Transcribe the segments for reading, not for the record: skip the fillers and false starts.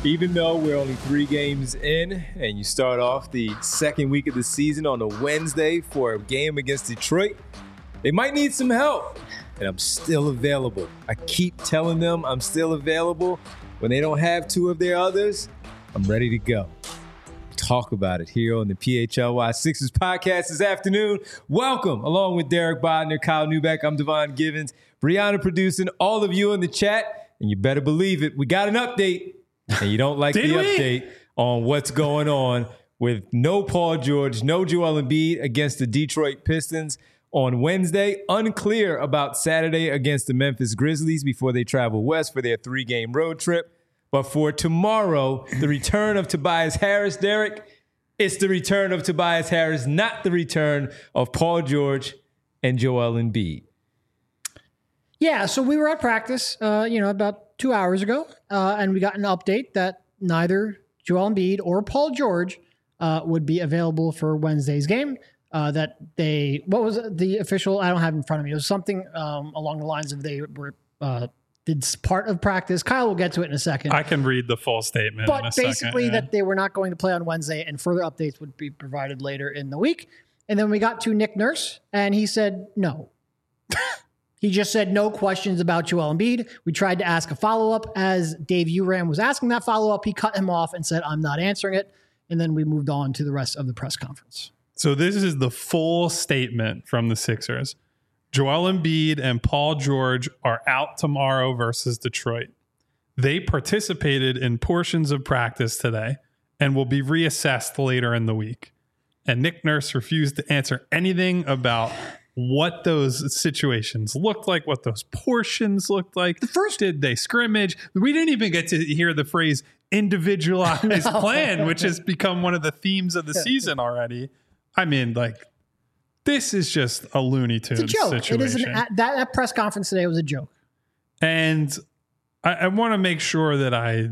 Even though we're only 3 games in and you start off the second week of the season on a Wednesday for a game against Detroit, they might need some help. And I'm still available. I keep telling them I'm still available. When they don't have 2 of their others, I'm ready to go. Talk about it here on the PHLY Sixers podcast this afternoon. Welcome, along with Derek Bodner, Kyle Newbeck. I'm Devon Givens, Brianna producing, all of you in the chat. And you better believe it, we got an update. And you don't like the update on what's going on with no Paul George, no Joel Embiid against the Detroit Pistons on Wednesday. Unclear about Saturday against the Memphis Grizzlies before they travel west for their 3-game road trip. But for tomorrow, the return of Tobias Harris, Derek, it's the return of Tobias Harris, not the return of Paul George and Joel Embiid. Yeah, so we were at practice, about 2 hours ago, and we got an update that neither Joel Embiid or Paul George would be available for Wednesday's game. What was the official? I don't have it in front of me. It was something along the lines of they were did part of practice. Kyle will get to it in a second. I can read the full statement. But basically, that they were not going to play on Wednesday, and further updates would be provided later in the week. And then we got to Nick Nurse, and he said no. He just said no questions about Joel Embiid. We tried to ask a follow-up. As Dave Uram was asking that follow-up, he cut him off and said, I'm not answering it. And then we moved on to the rest of the press conference. So this is the full statement from the Sixers. Joel Embiid and Paul George are out tomorrow versus Detroit. They participated in portions of practice today and will be reassessed later in the week. And Nick Nurse refused to answer anything about what those situations looked like, what those portions looked like. First, did they scrimmage? We didn't even get to hear the phrase individualized plan, which has become one of the themes of the season already. I mean, this is just a Looney Tunes situation. It is that press conference today was a joke. And I want to make sure that I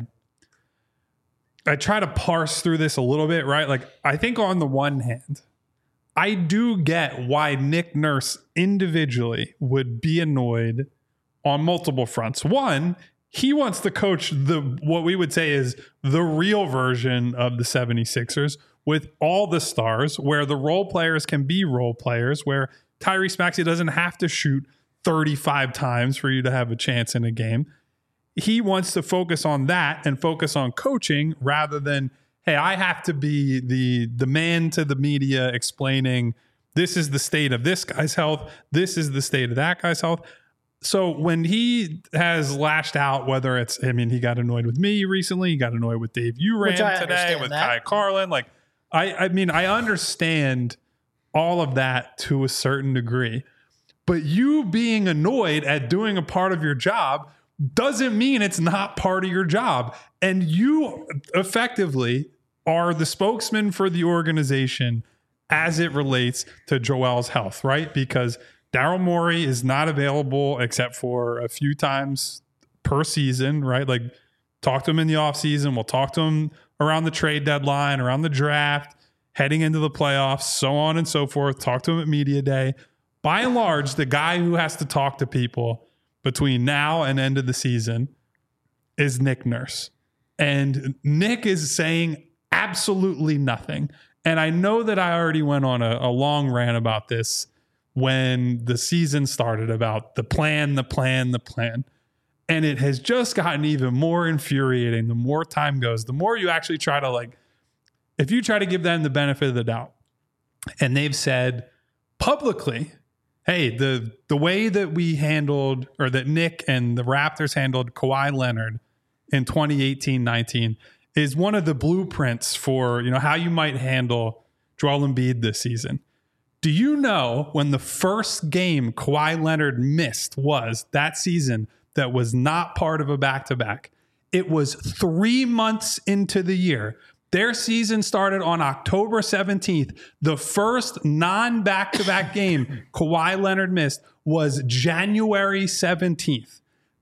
try to parse through this a little bit, right? I think on the one hand, I do get why Nick Nurse individually would be annoyed on multiple fronts. One, he wants to coach what we would say is the real version of the 76ers with all the stars, where the role players can be role players, where Tyrese Maxey doesn't have to shoot 35 times for you to have a chance in a game. He wants to focus on that and focus on coaching rather than, hey, I have to be the man to the media explaining this is the state of this guy's health, this is the state of that guy's health. So when he has lashed out, whether it's, he got annoyed with me recently, he got annoyed with Dave Uram today, with Kai Carlin. I understand all of that to a certain degree. But you being annoyed at doing a part of your job doesn't mean it's not part of your job. And you effectively are the spokesman for the organization as it relates to Joel's health, right? Because Daryl Morey is not available except for a few times per season, right? Talk to him in the offseason. We'll talk to him around the trade deadline, around the draft, heading into the playoffs, so on and so forth. Talk to him at media day. By and large, the guy who has to talk to people between now and end of the season is Nick Nurse. And Nick is saying absolutely nothing. And I know that I already went on a long rant about this when the season started, about the plan. And it has just gotten even more infuriating the more time goes, the more you actually try to if you try to give them the benefit of the doubt. And they've said publicly, hey, the way that we handled, or that Nick and the Raptors handled Kawhi Leonard in 2018-19 is one of the blueprints for, how you might handle Joel Embiid this season. Do you know when the first game Kawhi Leonard missed was that season that was not part of a back-to-back? It was 3 months into the year. Their season started on October 17th. The first non-back-to-back game Kawhi Leonard missed was January 17th.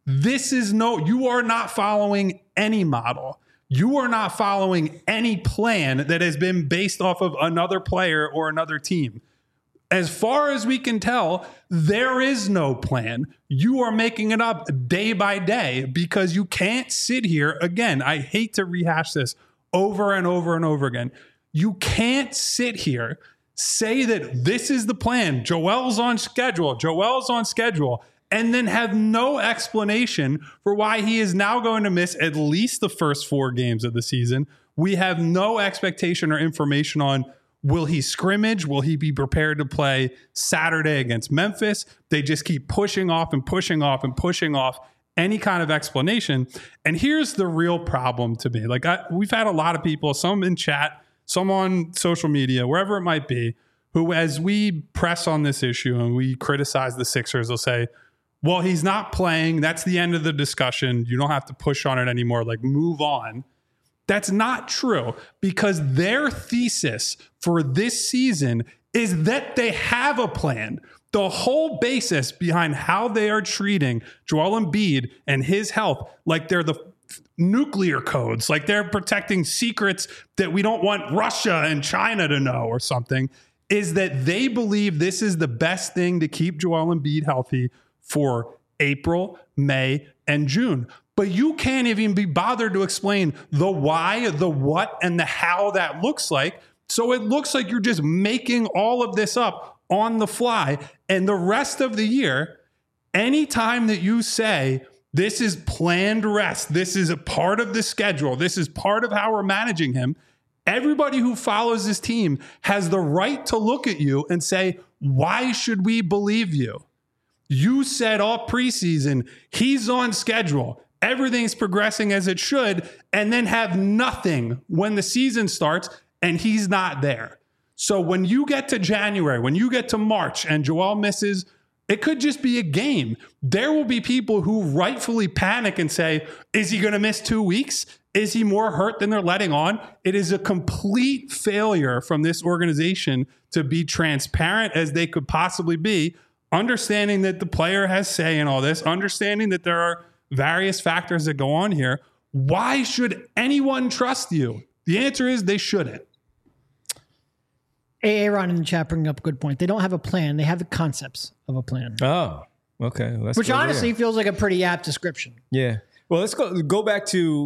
You are not following any model. You are not following any plan that has been based off of another player or another team. As far as we can tell, there is no plan. You are making it up day by day because you can't sit here. Again, I hate to rehash this over and over and over again. You can't sit here, say that this is the plan. Joel's on schedule, and then have no explanation for why he is now going to miss at least the first 4 games of the season. We have no expectation or information on, will he scrimmage? Will he be prepared to play Saturday against Memphis? They just keep pushing off any kind of explanation. And here's the real problem to me. We've had a lot of people, some in chat, some on social media, wherever it might be, who, as we press on this issue and we criticize the Sixers, will say, well, he's not playing. That's the end of the discussion. You don't have to push on it anymore. Move on. That's not true, because their thesis for this season is that they have a plan. The whole basis behind how they are treating Joel Embiid and his health, like they're the nuclear codes, like they're protecting secrets that we don't want Russia and China to know or something, is that they believe this is the best thing to keep Joel Embiid healthy for April, May, and June. But you can't even be bothered to explain the why, the what, and the how that looks like. So it looks like you're just making all of this up on the fly. And the rest of the year, anytime that you say, this is planned rest, this is a part of the schedule, this is part of how we're managing him, everybody who follows this team has the right to look at you and say, why should we believe you? You said all preseason, he's on schedule, everything's progressing as it should, and then have nothing when the season starts and he's not there. So when you get to January, when you get to March and Joel misses, it could just be a game. There will be people who rightfully panic and say, is he going to miss 2 weeks? Is he more hurt than they're letting on? It is a complete failure from this organization to be transparent as they could possibly be, understanding that the player has say in all this, understanding that there are various factors that go on here. Why should anyone trust you? The answer is they shouldn't. Aaron in the chat bringing up a good point. They don't have a plan. They have the concepts of a plan. Oh, okay. Which honestly feels like a pretty apt description. Yeah. Well, let's go back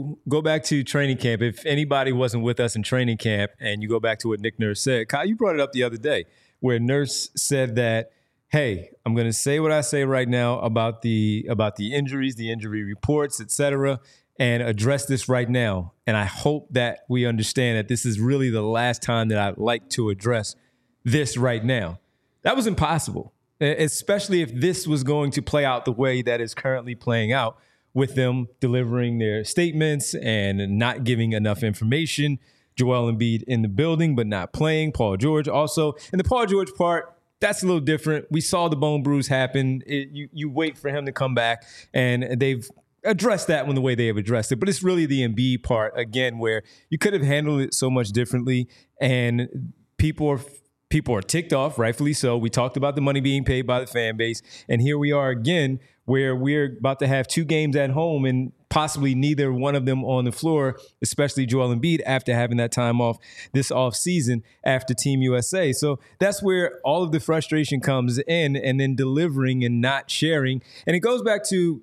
to training camp. If anybody wasn't with us in training camp, and you go back to what Nick Nurse said, Kyle, you brought it up the other day, where Nurse said that, hey, I'm going to say what I say right now about the injuries, the injury reports, etc., and address this right now. And I hope that we understand that this is really the last time that I'd like to address this right now. That was impossible, especially if this was going to play out the way that is currently playing out, with them delivering their statements and not giving enough information. Joel Embiid in the building, but not playing. Paul George also. And the Paul George part, that's a little different. We saw the bone bruise happen. You wait for him to come back, and they've addressed that one the way they have addressed it. But it's really the Embiid part, again, where you could have handled it so much differently, and people are ticked off, rightfully so. We talked about the money being paid by the fan base, and here we are again, where we're about to have 2 games at home and possibly neither one of them on the floor, especially Joel Embiid, after having that time off this offseason after Team USA. So that's where all of the frustration comes in, and then delivering and not sharing. And it goes back to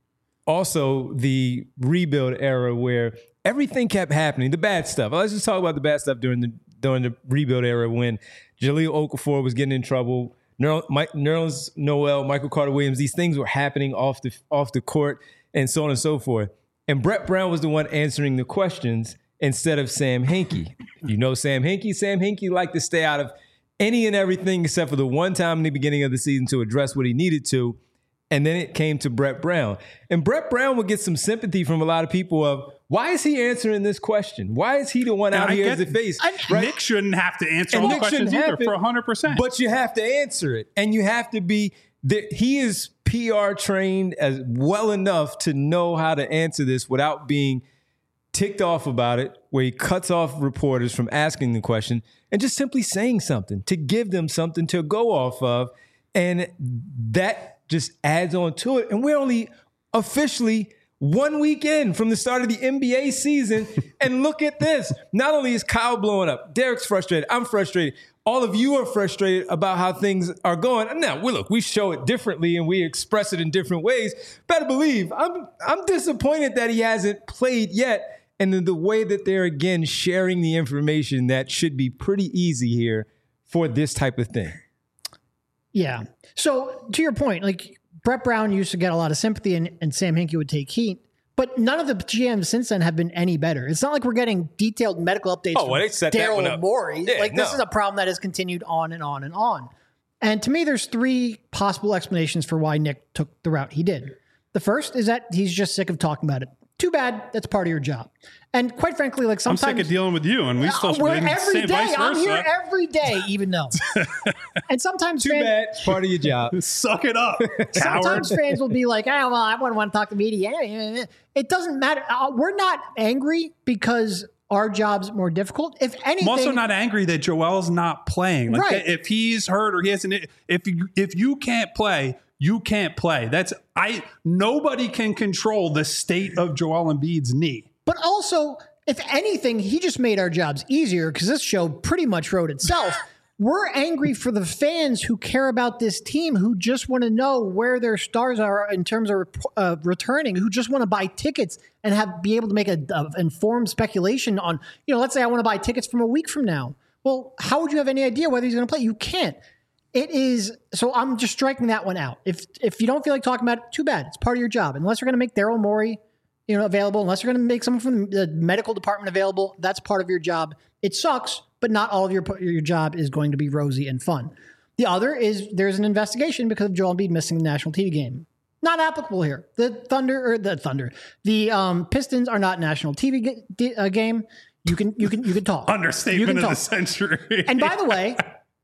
also the rebuild era, where everything kept happening, the bad stuff. Let's just talk about the bad stuff during the rebuild era, when Jahlil Okafor was getting in trouble, Nerlens Noel, Michael Carter-Williams, these things were happening off the court, and so on and so forth. And Brett Brown was the one answering the questions instead of Sam Hinkie. You know Sam Hinkie liked to stay out of any and everything except for the one time in the beginning of the season to address what he needed to. And then it came to Brett Brown. And Brett Brown would get some sympathy from a lot of people of, why is he answering this question? Why is he the one out here as the face? Right? Nick shouldn't have to answer all the questions either, for 100%. But you have to answer it. And you have to be, he is PR trained as well enough to know how to answer this without being ticked off about it, where he cuts off reporters from asking the question and just simply saying something to give them something to go off of. And that just adds on to it. And we're only officially 1 week in from the start of the NBA season. And look at this. Not only is Kyle blowing up, Derek's frustrated, I'm frustrated. All of you are frustrated about how things are going. Now, we show it differently and we express it in different ways. Better believe, I'm disappointed that he hasn't played yet. And in the way that they're, again, sharing the information that should be pretty easy here for this type of thing. Yeah. So to your point, like Brett Brown used to get a lot of sympathy and Sam Hinkie would take heat. But none of the GMs since then have been any better. It's not like we're getting detailed medical updates from Daryl Morey. Yeah, this is a problem that has continued on and on and on. And to me, there's 3 possible explanations for why Nick took the route he did. The first is that he's just sick of talking about it. Too bad. That's part of your job. And quite frankly, like sometimes I'm sick of dealing with you, and we still every day. I'm here every day, even though. And sometimes too bad. It's part of your job. Suck it up. Sometimes fans will be like, "Oh, well, I wouldn't want to talk to media." It doesn't matter. We're not angry because our job's more difficult. If anything, I'm also not angry that Joel's not playing. Like right. If he's hurt or he hasn't, if you can't play. You can't play. Nobody can control the state of Joel Embiid's knee. But also, if anything, he just made our jobs easier because this show pretty much wrote itself. We're angry for the fans who care about this team, who just want to know where their stars are in terms of returning, who just want to buy tickets and be able to make an informed speculation on, let's say I want to buy tickets from a week from now. Well, how would you have any idea whether he's going to play? You can't. It is, so I'm just striking that one out. If you don't feel like talking about it, too bad. It's part of your job. Unless you're going to make Daryl Morey, available, unless you're going to make someone from the medical department available, that's part of your job. It sucks, but not all of your job is going to be rosy and fun. The other is there's an investigation because of Joel Embiid missing the national TV game. Not applicable here. The Pistons are not national TV game. You can talk. Understatement of the century. And by the way,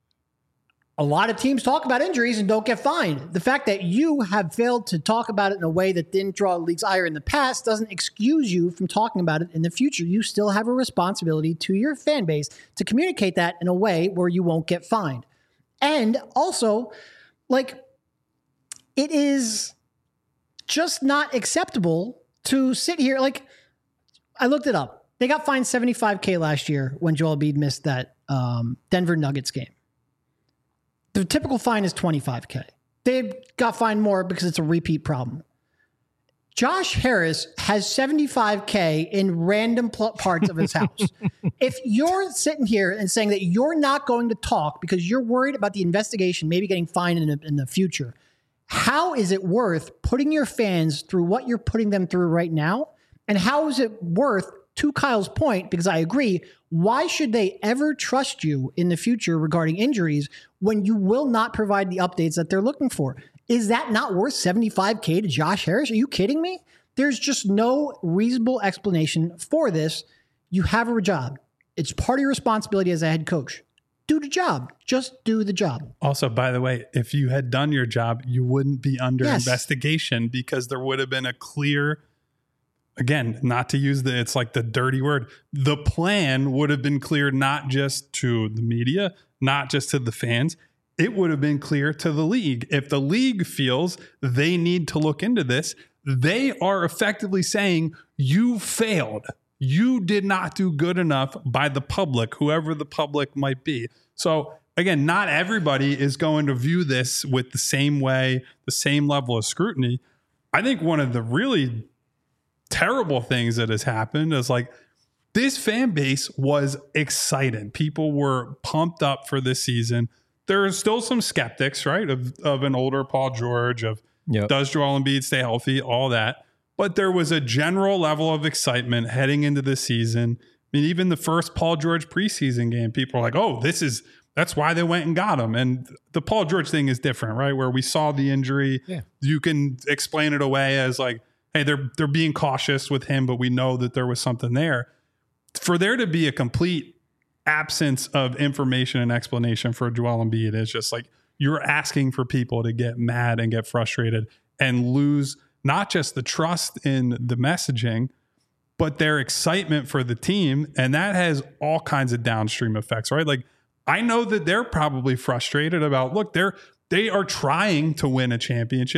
a lot of teams talk about injuries and don't get fined. The fact that you have failed to talk about it in a way that didn't draw the league's ire in the past doesn't excuse you from talking about it in the future. You still have a responsibility to your fan base to communicate that in a way where you won't get fined. And also, it is just not acceptable to sit here. I looked it up. They got fined $75,000 last year when Joel Embiid missed that Denver Nuggets game. The typical fine is $25,000. They got fined more because it's a repeat problem. Josh Harris has $75,000 in random parts of his house. If you're sitting here and saying that you're not going to talk because you're worried about the investigation maybe getting fined in the future, how is it worth putting your fans through what you're putting them through right now? And how is it worth, to Kyle's point, because I agree, why should they ever trust you in the future regarding injuries when you will not provide the updates that they're looking for? Is that not worth $75,000 to Josh Harris? Are you kidding me? There's just no reasonable explanation for this. You have a job. It's part of your responsibility as a head coach. Do the job. Just do the job. Also, by the way, if you had done your job, you wouldn't be under investigation because there would have been a clear... Again, not to use it's like the dirty word. The plan would have been clear not just to the media, not just to the fans. It would have been clear to the league. If the league feels they need to look into this, they are effectively saying you failed. You did not do good enough by the public, whoever the public might be. So again, not everybody is going to view this with the same way, the same level of scrutiny. I think one of the really terrible things that has happened is this fan base was excited. People were pumped up for this season. There are still some skeptics, right? Of an older Paul George, does Joel Embiid stay healthy, all that. But there was a general level of excitement heading into the season. I mean, even the first Paul George preseason game, people are like, oh, that's why they went and got him. And the Paul George thing is different, right? Where we saw the injury. Yeah. You can explain it away as hey, they're being cautious with him, but we know that there was something there. For there to be a complete absence of information and explanation for Joel Embiid is just you're asking for people to get mad and get frustrated and lose not just the trust in the messaging, but their excitement for the team. And that has all kinds of downstream effects, right? I know that they're probably frustrated about, look, they are trying to win a championship.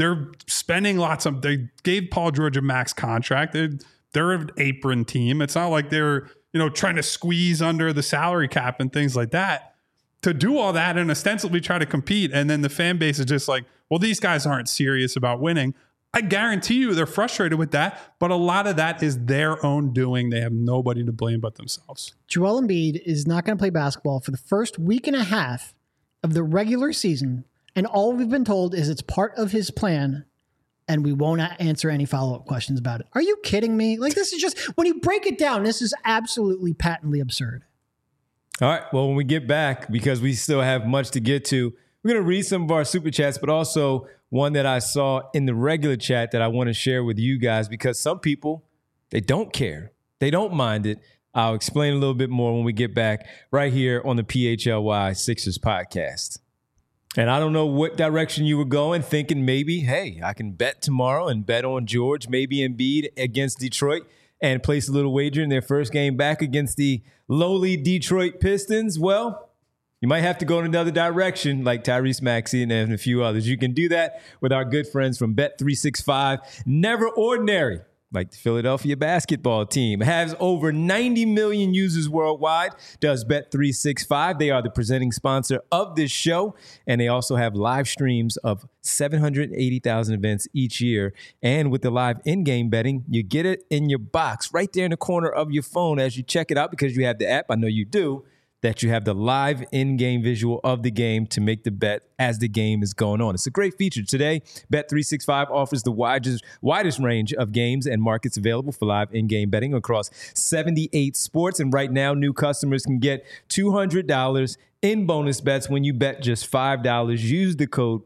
they're spending they gave Paul George a max contract. They're an apron team. It's not like they're, trying to squeeze under the salary cap and things like that. To do all that and ostensibly try to compete, and then the fan base is just like, well, these guys aren't serious about winning. I guarantee you they're frustrated with that, but a lot of that is their own doing. They have nobody to blame but themselves. Joel Embiid is not going to play basketball for the first week and a half of the regular season, and all we've been told is it's part of his plan, and we won't answer any follow-up questions about it. Are you kidding me? Like, this is just, when you break it down, this is absolutely patently absurd. All right. Well, when we get back, because we still have much to get to, we're going to read some of our super chats, but also one that I saw in the regular chat that I want to share with you guys, because some people, they don't care. They don't mind it. I'll explain a little bit more when we get back right here on the PHLY Sixers podcast. And I don't know what direction you were going, thinking maybe, hey, I can bet tomorrow and bet on George, maybe Embiid against Detroit, and place a little wager in their first game back against the lowly Detroit Pistons. Well, you might have to go in another direction like Tyrese Maxey and a few others. You can do that with our good friends from Bet365. Never ordinary, like the Philadelphia basketball team, has over 90 million users worldwide, does Bet365. They are the presenting sponsor of this show, and they also have live streams of 780,000 events each year. And with the live in-game betting, you get it in your box right there in the corner of your phone as you check it out, because you have the app. I know you do. That you have the live in-game visual of the game to make the bet as the game is going on. It's a great feature. Today, Bet365 offers the widest range of games and markets available for live in-game betting across 78 sports. And right now, new customers can get $200 in bonus bets when you bet just $5. Use the code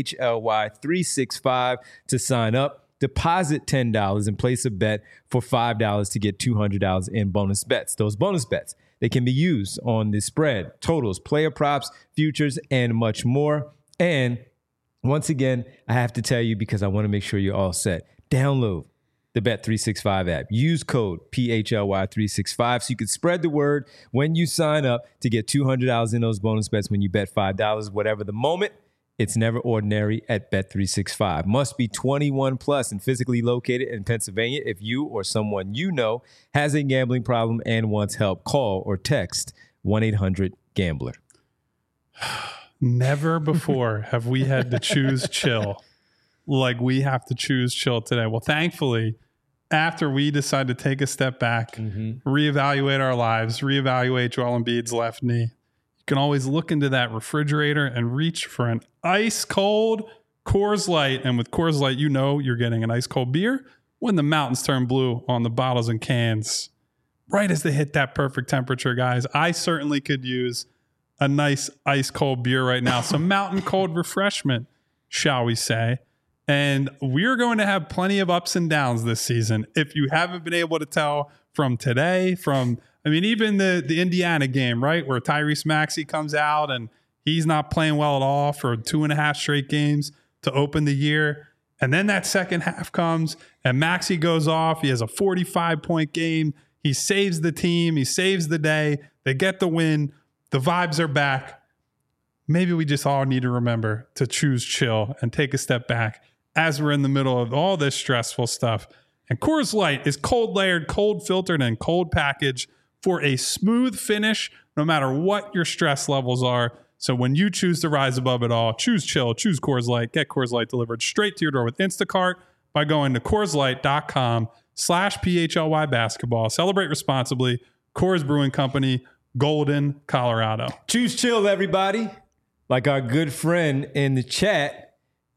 PHLY365 to sign up. Deposit $10 and place a bet for $5 to get $200 in bonus bets. Those bonus bets, they can be used on the spread, totals, player props, futures, and much more. And once again, I have to tell you, because I want to make sure you're all set, download the Bet365 app. Use code PHLY365 so you can spread the word when you sign up to get $200 in those bonus bets when you bet $5, whatever the moment. It's never ordinary at Bet365. Must be 21 plus and physically located in Pennsylvania. If you or someone you know has a gambling problem and wants help, call or text 1-800-GAMBLER. Never before have we had to choose chill like we have to choose chill today. Well, thankfully, after we decide to take a step back, reevaluate our lives, reevaluate Joel Embiid's left knee, you can always look into that refrigerator and reach for an ice cold Coors Light. And with Coors Light, you know you're getting an ice cold beer when the mountains turn blue on the bottles and cans. Right as they hit that perfect temperature, guys, I certainly could use a nice ice cold beer right now. Some mountain cold refreshment, shall we say. And we're going to have plenty of ups and downs this season. If you haven't been able to tell from today, even the Indiana game, right, where Tyrese Maxey comes out and he's not playing well at all for 2.5 straight games to open the year. And then that second half comes and Maxey goes off. He has a 45-point game. He saves the team. He saves the day. They get the win. The vibes are back. Maybe we just all need to remember to choose chill and take a step back as we're in the middle of all this stressful stuff. And Coors Light is cold layered, cold filtered, and cold packaged for a smooth finish, no matter what your stress levels are. So when you choose to rise above it all, choose chill, choose Coors Light. Get Coors Light delivered straight to your door with Instacart by going to CoorsLight.com/PHLY basketball. Celebrate responsibly. Coors Brewing Company, Golden, Colorado. Choose chill, everybody. Like our good friend in the chat,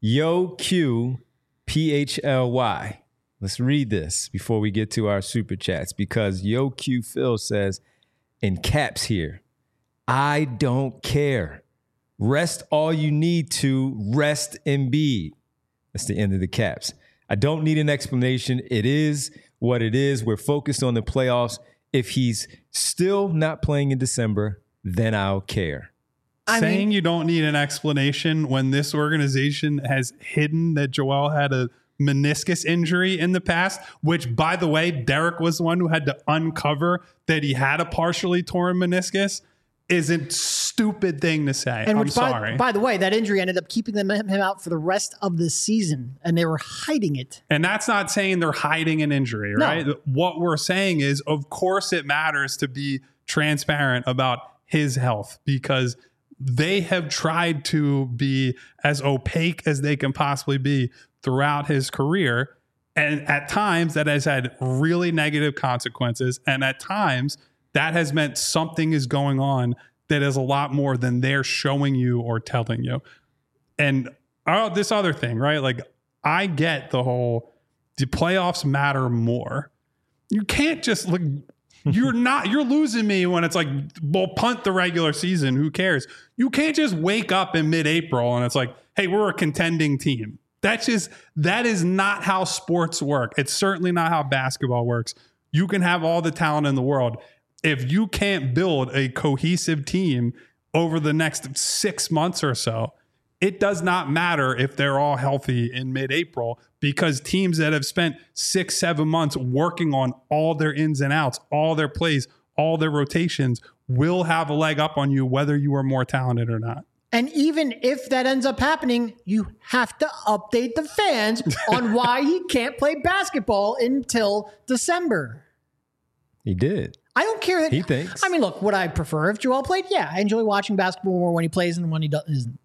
YoQPHLY. Let's read this before we get to our super chats, because YoQ Phil says in caps here, I don't care. Rest all you need to. Rest Embiid. That's the end of the caps. I don't need an explanation. It is what it is. We're focused on the playoffs. If he's still not playing in December, then I'll care. Saying you don't need an explanation when this organization has hidden that Joel had a meniscus injury in the past, which, by the way, Derek was the one who had to uncover that he had a partially torn meniscus, isn't stupid thing to say. And I'm which, sorry. by the way, that injury ended up keeping him out for the rest of the season, and they were hiding it. And that's not saying they're hiding an injury, right? No. What we're saying is, of course, it matters to be transparent about his health because they have tried to be as opaque as they can possibly be throughout his career. And at times that has had really negative consequences. And at times that has meant something is going on that is a lot more than they're showing you or telling you. And this other thing, right? Like, I get the playoffs matter more. You can't just look, you're losing me when it's like, well, punt the regular season. Who cares? You can't just wake up in mid-April and it's like, hey, we're a contending team. That is not how sports work. It's certainly not how basketball works. You can have all the talent in the world. If you can't build a cohesive team over the next 6 months or so, it does not matter if they're all healthy in mid-April, because teams that have spent 6-7 months working on all their ins and outs, all their plays, all their rotations will have a leg up on you, whether you are more talented or not. And even if that ends up happening, you have to update the fans on why he can't play basketball until December. He did. I don't care that he thinks. I mean, look, would I prefer if Joel played? Yeah, I enjoy watching basketball more when he plays than when he doesn't.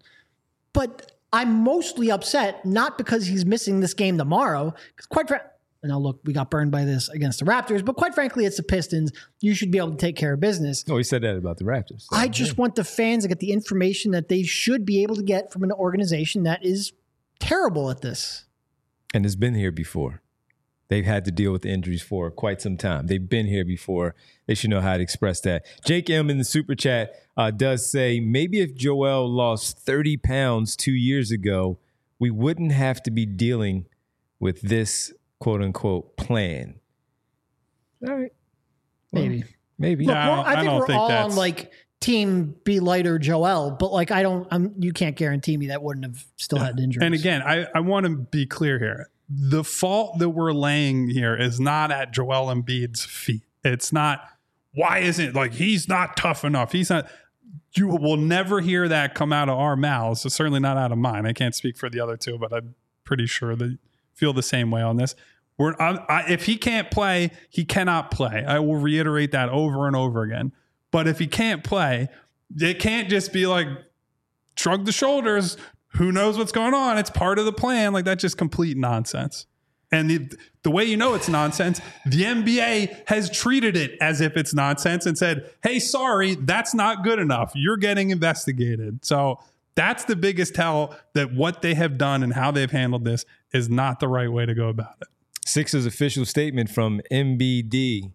But I'm mostly upset not because he's missing this game tomorrow, because quite frankly, now look, we got burned by this against the Raptors, but quite frankly, it's the Pistons. You should be able to take care of business. No, he said that about the Raptors. So, I just want the fans to get the information that they should be able to get from an organization that is terrible at this. And has been here before. They've had to deal with the injuries for quite some time. They've been here before. They should know how to express that. Jake M in the super chat does say, maybe if Joel lost 30 pounds 2 years ago, we wouldn't have to be dealing with this quote unquote plan. All right. Well, maybe. Look, I think we're all on like team be lighter Joel, but like you can't guarantee me that wouldn't have still had injuries. And again, I want to be clear here. The fault that we're laying here is not at Joel Embiid's feet. It's not, why isn't, like, he's not tough enough. He's not. You will never hear that come out of our mouths. So certainly not out of mine. I can't speak for the other two, but I'm pretty sure they feel the same way on this. If he can't play, he cannot play. I will reiterate that over and over again. But if he can't play, it can't just be like, shrug the shoulders. Who knows what's going on? It's part of the plan. Like, that's just complete nonsense. And the way you know it's nonsense, the NBA has treated it as if it's nonsense and said, hey, sorry, that's not good enough. You're getting investigated. So that's the biggest tell that what they have done and how they've handled this is not the right way to go about it. Sixers official statement from MBD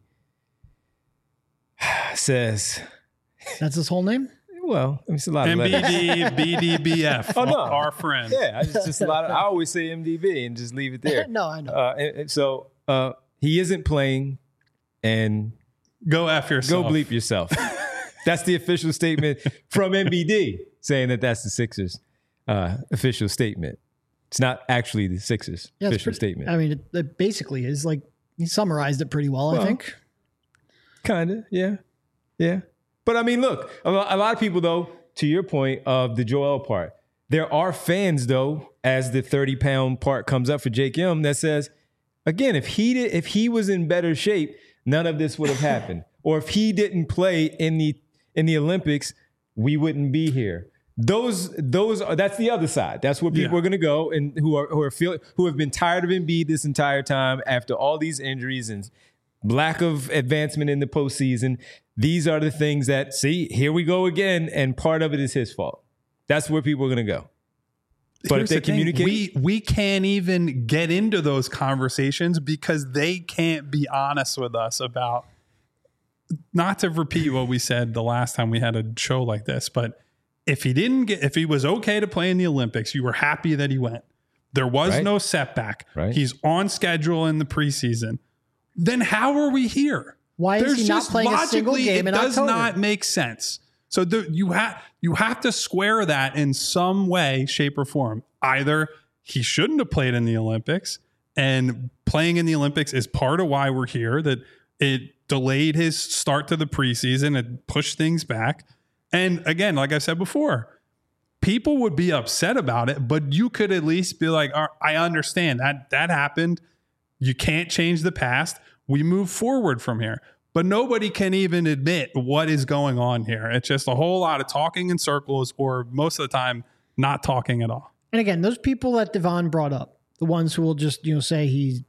says... That's his whole name? Well, it's a lot of MBD, BDBF, oh, no. our friend. Yeah, it's just a lot of, I always say MDB and just leave it there. No, I know. And so he isn't playing, and go after yourself. Go bleep yourself. That's the official statement from MBD, saying that that's the Sixers official statement. It's not actually the Sixers official statement. I mean, it basically is like, he summarized it pretty well, I think. Kind of, yeah. Yeah. But I mean, look, a lot of people, though, to your point of the Joel part, there are fans, though, as the 30-pound part comes up for Jake M, that says, again, if he was in better shape, none of this would have happened. Or if he didn't play in the Olympics, we wouldn't be here. That's the other side. That's where people are going to go, and who have been tired of Embiid this entire time after all these injuries and lack of advancement in the postseason. These are the things that, see, here we go again, and part of it is his fault. That's where people are going to go. But Here's if they communicate... We can't even get into those conversations because they can't be honest with us about, not to repeat what we said the last time we had a show like this, but if he was okay to play in the Olympics, you were happy that he went. There was no setback. Right. He's on schedule in the preseason. Then how are we here? Why is he not playing a single game in October? It does not make sense. So you have to square that in some way, shape, or form. Either he shouldn't have played in the Olympics, and playing in the Olympics is part of why we're here, that it delayed his start to the preseason and pushed things back. And again, like I said before, people would be upset about it, but you could at least be like, I understand that happened. You can't change the past. We move forward from here. But nobody can even admit what is going on here. It's just a whole lot of talking in circles, or most of the time not talking at all. And again, those people that Devon brought up, the ones who will just, say he's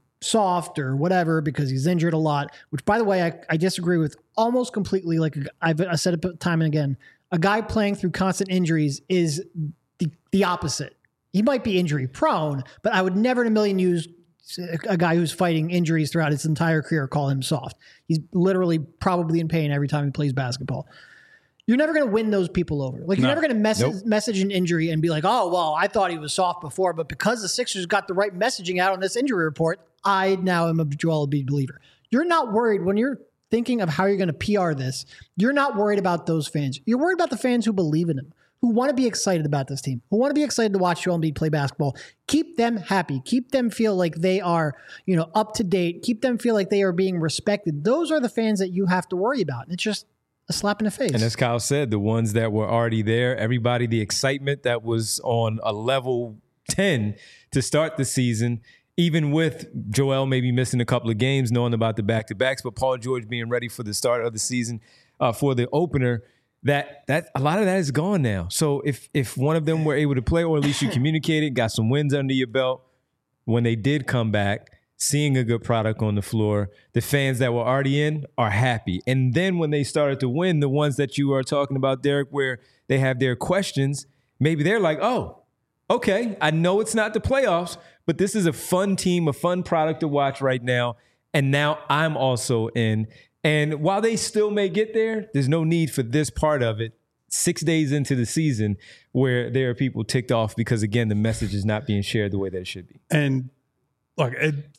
soft or whatever because he's injured a lot, which, by the way, I disagree with almost completely. Like I said it time and again, a guy playing through constant injuries is the opposite. He might be injury prone, but I would never in a million years a guy who's fighting injuries throughout his entire career call him soft. He's literally probably in pain every time he plays basketball. You're never going to win those people over. Like, you're never going to message an injury and be like, oh, well, I thought he was soft before, but because the Sixers got the right messaging out on this injury report, I now am a Joel Embiid believer. You're not worried when you're thinking of how you're going to PR this. You're not worried about those fans. You're worried about the fans who believe in him, who want to be excited about this team, who want to be excited to watch Joel Embiid play basketball. Keep them happy. Keep them feel like they are, up to date. Keep them feel like they are being respected. Those are the fans that you have to worry about. And it's just a slap in the face. And as Kyle said, the ones that were already there, everybody, the excitement that was on a level 10 to start the season, even with Joel maybe missing a couple of games, knowing about the back-to-backs, but Paul George being ready for the start of the season for the opener, that a lot of that is gone now. So if one of them were able to play, or at least you communicated, got some wins under your belt, when they did come back, seeing a good product on the floor, the fans that were already in are happy. And then when they started to win, the ones that you are talking about, Derek, where they have their questions, maybe they're like, oh, okay, I know it's not the playoffs, but this is a fun team, a fun product to watch right now. And now I'm also in. And while they still may get there, there's no need for this part of it 6 days into the season where there are people ticked off because, again, the message is not being shared the way that it should be. And look,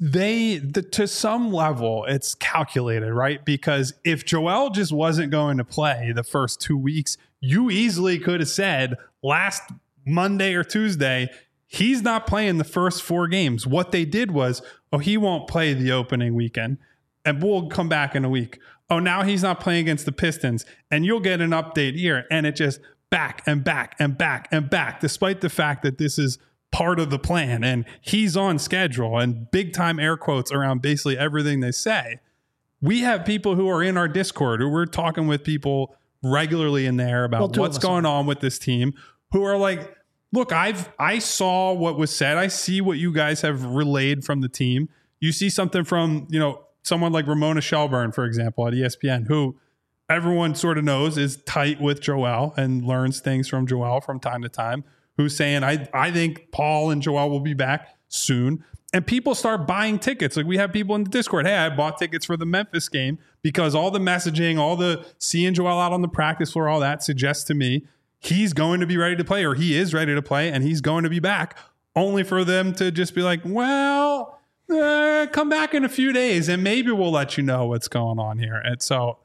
to some level, it's calculated, right? Because if Joel just wasn't going to play the first 2 weeks, you easily could have said last Monday or Tuesday, he's not playing the first 4 games. What they did was, he won't play the opening weekend, and we'll come back in a week. Now he's not playing against the Pistons, and you'll get an update here. And it just back and back and back and back, despite the fact that this is part of the plan and he's on schedule, and big time air quotes around basically everything they say. We have people who are in our Discord who we're talking with people regularly in there about what's going on with this team, who are like, look, I saw what was said. I see what you guys have relayed from the team. You see something from, someone like Ramona Shelburne, for example, at ESPN, who everyone sort of knows is tight with Joel and learns things from Joel from time to time, who's saying, I think Paul and Joel will be back soon. And people start buying tickets. Like, we have people in the Discord, hey, I bought tickets for the Memphis game because all the messaging, all the seeing Joel out on the practice floor, all that suggests to me he's going to be ready to play, or he is ready to play, and he's going to be back, only for them to just be like, well, come back in a few days and maybe we'll let you know what's going on here. And so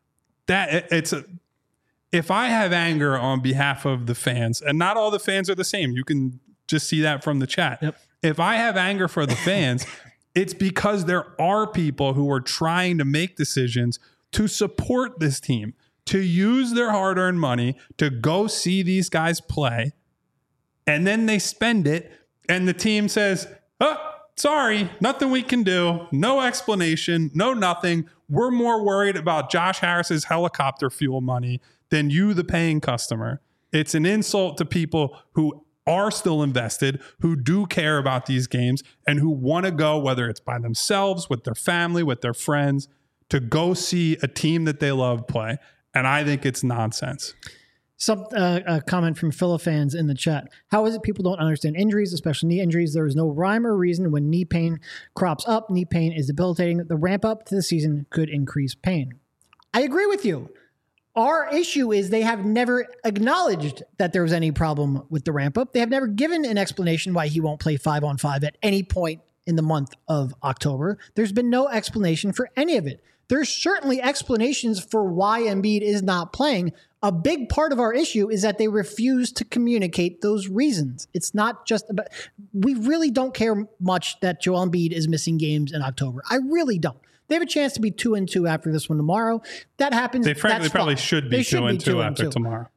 if I have anger on behalf of the fans, and not all the fans are the same, you can just see that from the chat. Yep. If I have anger for the fans, it's because there are people who are trying to make decisions to support this team, to use their hard-earned money to go see these guys play, and then they spend it, and the team says, sorry, nothing we can do, no explanation, no nothing. We're more worried about Josh Harris's helicopter fuel money than you, the paying customer. It's an insult to people who are still invested, who do care about these games, and who want to go, whether it's by themselves, with their family, with their friends, to go see a team that they love play. And I think it's nonsense. A comment from Philifans in the chat. How is it people don't understand injuries, especially knee injuries? There is no rhyme or reason when knee pain crops up. Knee pain is debilitating. The ramp up to the season could increase pain. I agree with you. Our issue is they have never acknowledged that there was any problem with the ramp up. They have never given an explanation why he won't play 5-on-5 at any point in the month of October. There's been no explanation for any of it. There's certainly explanations for why Embiid is not playing. A big part of our issue is that they refuse to communicate those reasons. It's not just about, we really don't care much that Joel Embiid is missing games in October. I really don't. They have a chance to be 2-2 after this one tomorrow. That happens. They frankly probably fine. should be 2-2 after tomorrow.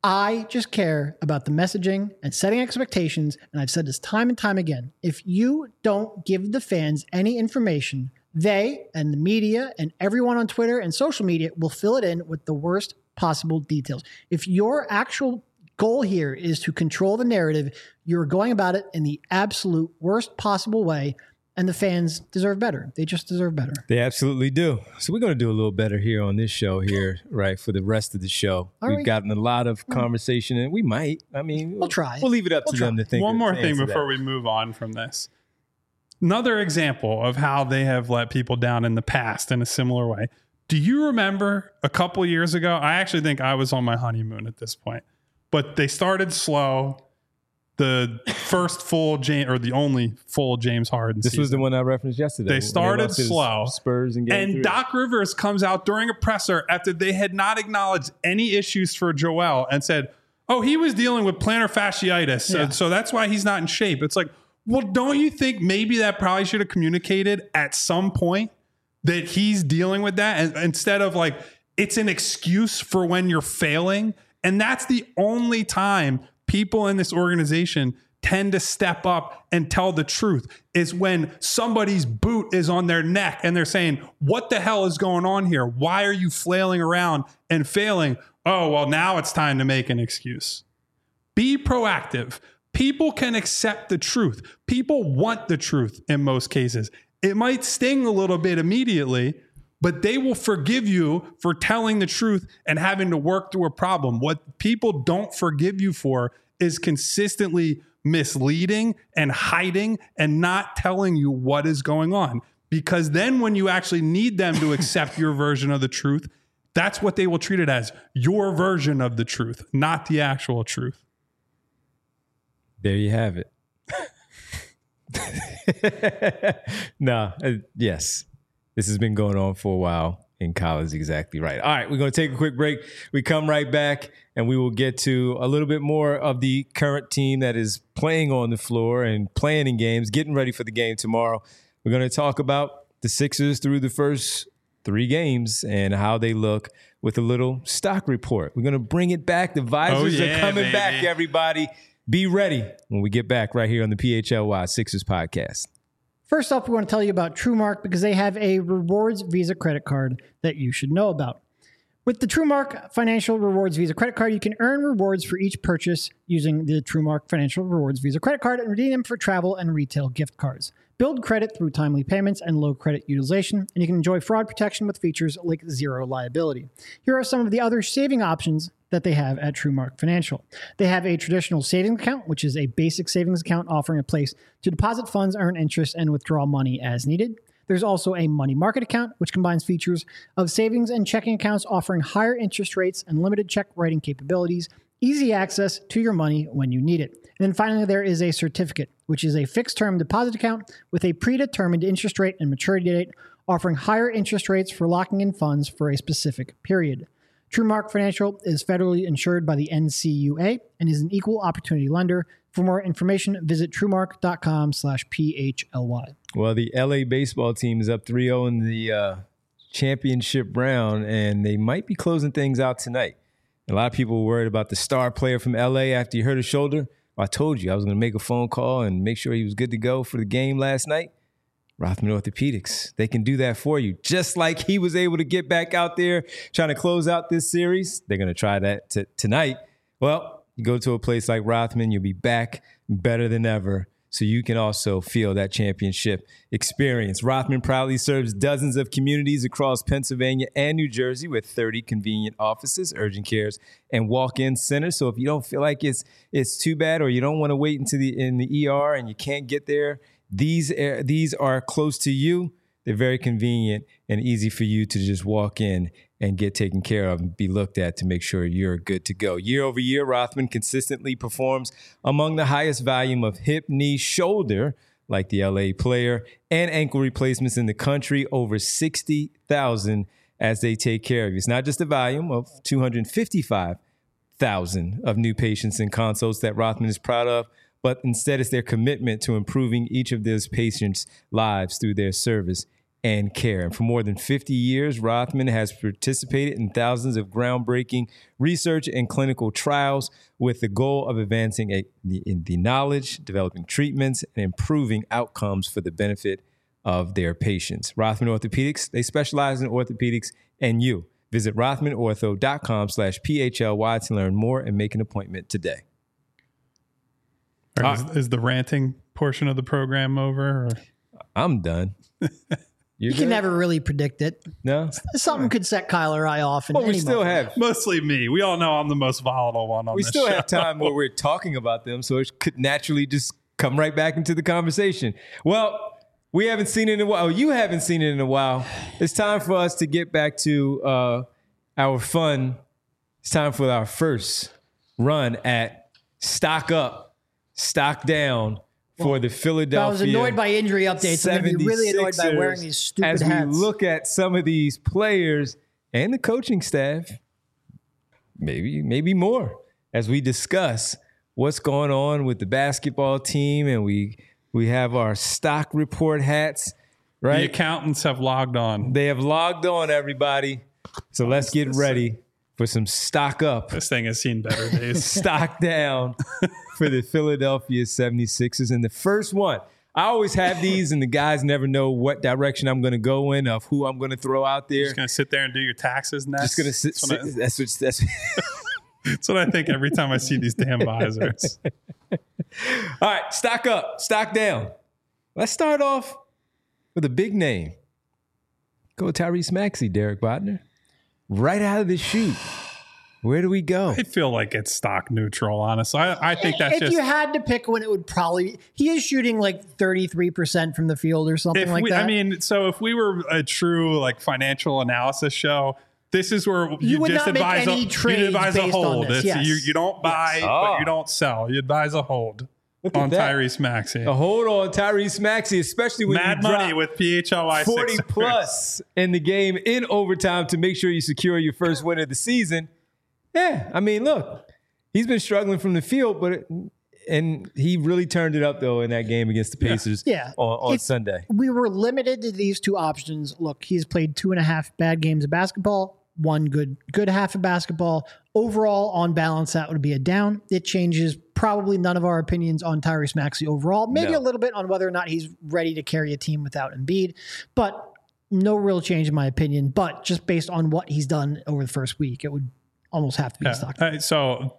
I just care about the messaging and setting expectations, and I've said this time and time again. If you don't give the fans any information, they and the media and everyone on Twitter and social media will fill it in with the worst possible details. If your actual goal here is to control the narrative, you're going about it in the absolute worst possible way, and the fans deserve better. They just deserve better. They absolutely do. So we're going to do a little better here on this show here, right, for the rest of the show. We've gotten a lot of conversation, and we might. I mean, we'll try. We'll leave it up to them to think. One more thing before we move on from this. Another example of how they have let people down in the past in a similar way. Do you remember a couple years ago? I actually think I was on my honeymoon at this point, but they started slow. The first full the only full James Harden This season. was the one I referenced yesterday. They started slow. Spurs and Doc Rivers comes out during a presser after they had not acknowledged any issues for Joel and said, oh, he was dealing with plantar fasciitis, so that's why he's not in shape. It's like, well, don't you think maybe that probably should have communicated at some point that he's dealing with that, and instead of like, it's an excuse for when you're failing? And that's the only time people in this organization tend to step up and tell the truth, is when somebody's boot is on their neck and they're saying, what the hell is going on here? Why are you flailing around and failing? Oh, well, now it's time to make an excuse. Be proactive. People can accept the truth. People want the truth in most cases. It might sting a little bit immediately, but they will forgive you for telling the truth and having to work through a problem. What people don't forgive you for is consistently misleading and hiding and not telling you what is going on. Because then when you actually need them to accept your version of the truth, that's what they will treat it as, your version of the truth, not the actual truth. There you have it. Yes. This has been going on for a while, and Kyle is exactly right. All right, we're going to take a quick break. We come right back, and we will get to a little bit more of the current team that is playing on the floor and playing in games, getting ready for the game tomorrow. We're going to talk about the Sixers through the first 3 games and how they look with a little stock report. We're going to bring it back. The visors are coming back, everybody. Be ready when we get back right here on the PHLY Sixers podcast. First off, we want to tell you about TrueMark because they have a rewards Visa credit card that you should know about. With the TrueMark Financial Rewards Visa credit card, you can earn rewards for each purchase using the TrueMark Financial Rewards Visa credit card and redeem them for travel and retail gift cards. Build credit through timely payments and low credit utilization, and you can enjoy fraud protection with features like zero liability. Here are some of the other saving options that they have at TrueMark Financial. They have a traditional savings account, which is a basic savings account offering a place to deposit funds, earn interest, and withdraw money as needed. There's also a money market account, which combines features of savings and checking accounts offering higher interest rates and limited check writing capabilities, easy access to your money when you need it. And then finally, there is a certificate, which is a fixed-term deposit account with a predetermined interest rate and maturity date, offering higher interest rates for locking in funds for a specific period. TrueMark Financial is federally insured by the NCUA and is an equal opportunity lender. For more information, visit truemark.com/PHLY. Well, the LA baseball team is up 3-0 in the championship round, and they might be closing things out tonight. A lot of people were worried about the star player from LA after he hurt his shoulder. I told you I was going to make a phone call and make sure he was good to go for the game last night. Rothman Orthopedics, they can do that for you. Just like he was able to get back out there trying to close out this series, they're going to try that tonight. Well, you go to a place like Rothman, you'll be back better than ever, so you can also feel that championship experience. Rothman proudly serves dozens of communities across Pennsylvania and New Jersey with 30 convenient offices, urgent cares, and walk-in centers. So if you don't feel like it's too bad, or you don't want to wait into in the ER and you can't get there, these are close to you. They're very convenient and easy for you to just walk in and get taken care of and be looked at to make sure you're good to go. Year over year, Rothman consistently performs among the highest volume of hip, knee, shoulder, like the LA player, and ankle replacements in the country, over 60,000 as they take care of you. It's not just the volume of 255,000 of new patients and consults that Rothman is proud of, but instead it's their commitment to improving each of those patients' lives through their service and care. And for more than 50 years, Rothman has participated in thousands of groundbreaking research and clinical trials with the goal of advancing the knowledge, developing treatments, and improving outcomes for the benefit of their patients. Rothman Orthopedics, they specialize in orthopedics and you. Visit rothmanortho.com/PHLY to learn more and make an appointment today. Is the ranting portion of the program over? Or? I'm done. You can never really predict it. No? Something could set Kyle or I off. Well, we still have. Mostly me. We all know I'm the most volatile one on We this still show. have time where we're talking about them, so it could naturally just come right back into the conversation. Well, we haven't seen it in a while. You haven't seen it in a while. It's time for us to get back to our fun. It's time for our first run at Stock Up, Stock Down for the Philadelphia. I was annoyed by injury updates. I'm going to be really annoyed by wearing these stupid hats. As we look at some of these players and the coaching staff, maybe more, as we discuss what's going on with the basketball team, and we have our stock report hats, right? The accountants have logged on. They have logged on, everybody. So let's get ready for some stock up. This thing has seen better days. Stock down for the Philadelphia 76ers. And the first one, I always have these, and the guys never know what direction I'm going to go in, of who I'm going to throw out there. Just going to sit there and do your taxes next? Just going to sit. That's what I think every time I see these damn visors. All right, stock up, stock down. Let's start off with a big name. Go Tyrese Maxey, Derek Bodner. Right out of the chute. Where do we go? I feel like it's stock neutral, honestly. I think that's if just... you had to pick one, it would probably... He is shooting like 33% from the field or something like that. I mean, so if we were a true like financial analysis show, this is where you would just not make advise any trades a based on hold. this, yes. You don't buy, but you don't sell. You advise a hold on Tyrese Maxey. A hold on Tyrese Maxey, especially when Mad you money drop with PHLY 40 Sixers. plus in the game in overtime to make sure you secure your first win of the season. Yeah, I mean, look, he's been struggling from the field, and he really turned it up, though, in that game against the Pacers on Sunday. We were limited to these two options. Look, he's played 2.5 bad games of basketball, one good half of basketball. Overall, on balance, that would be a down. It changes probably none of our opinions on Tyrese Maxey overall. Maybe a little bit on whether or not he's ready to carry a team without Embiid, but no real change in my opinion. But just based on what he's done over the first week, it would almost have to be a stock. So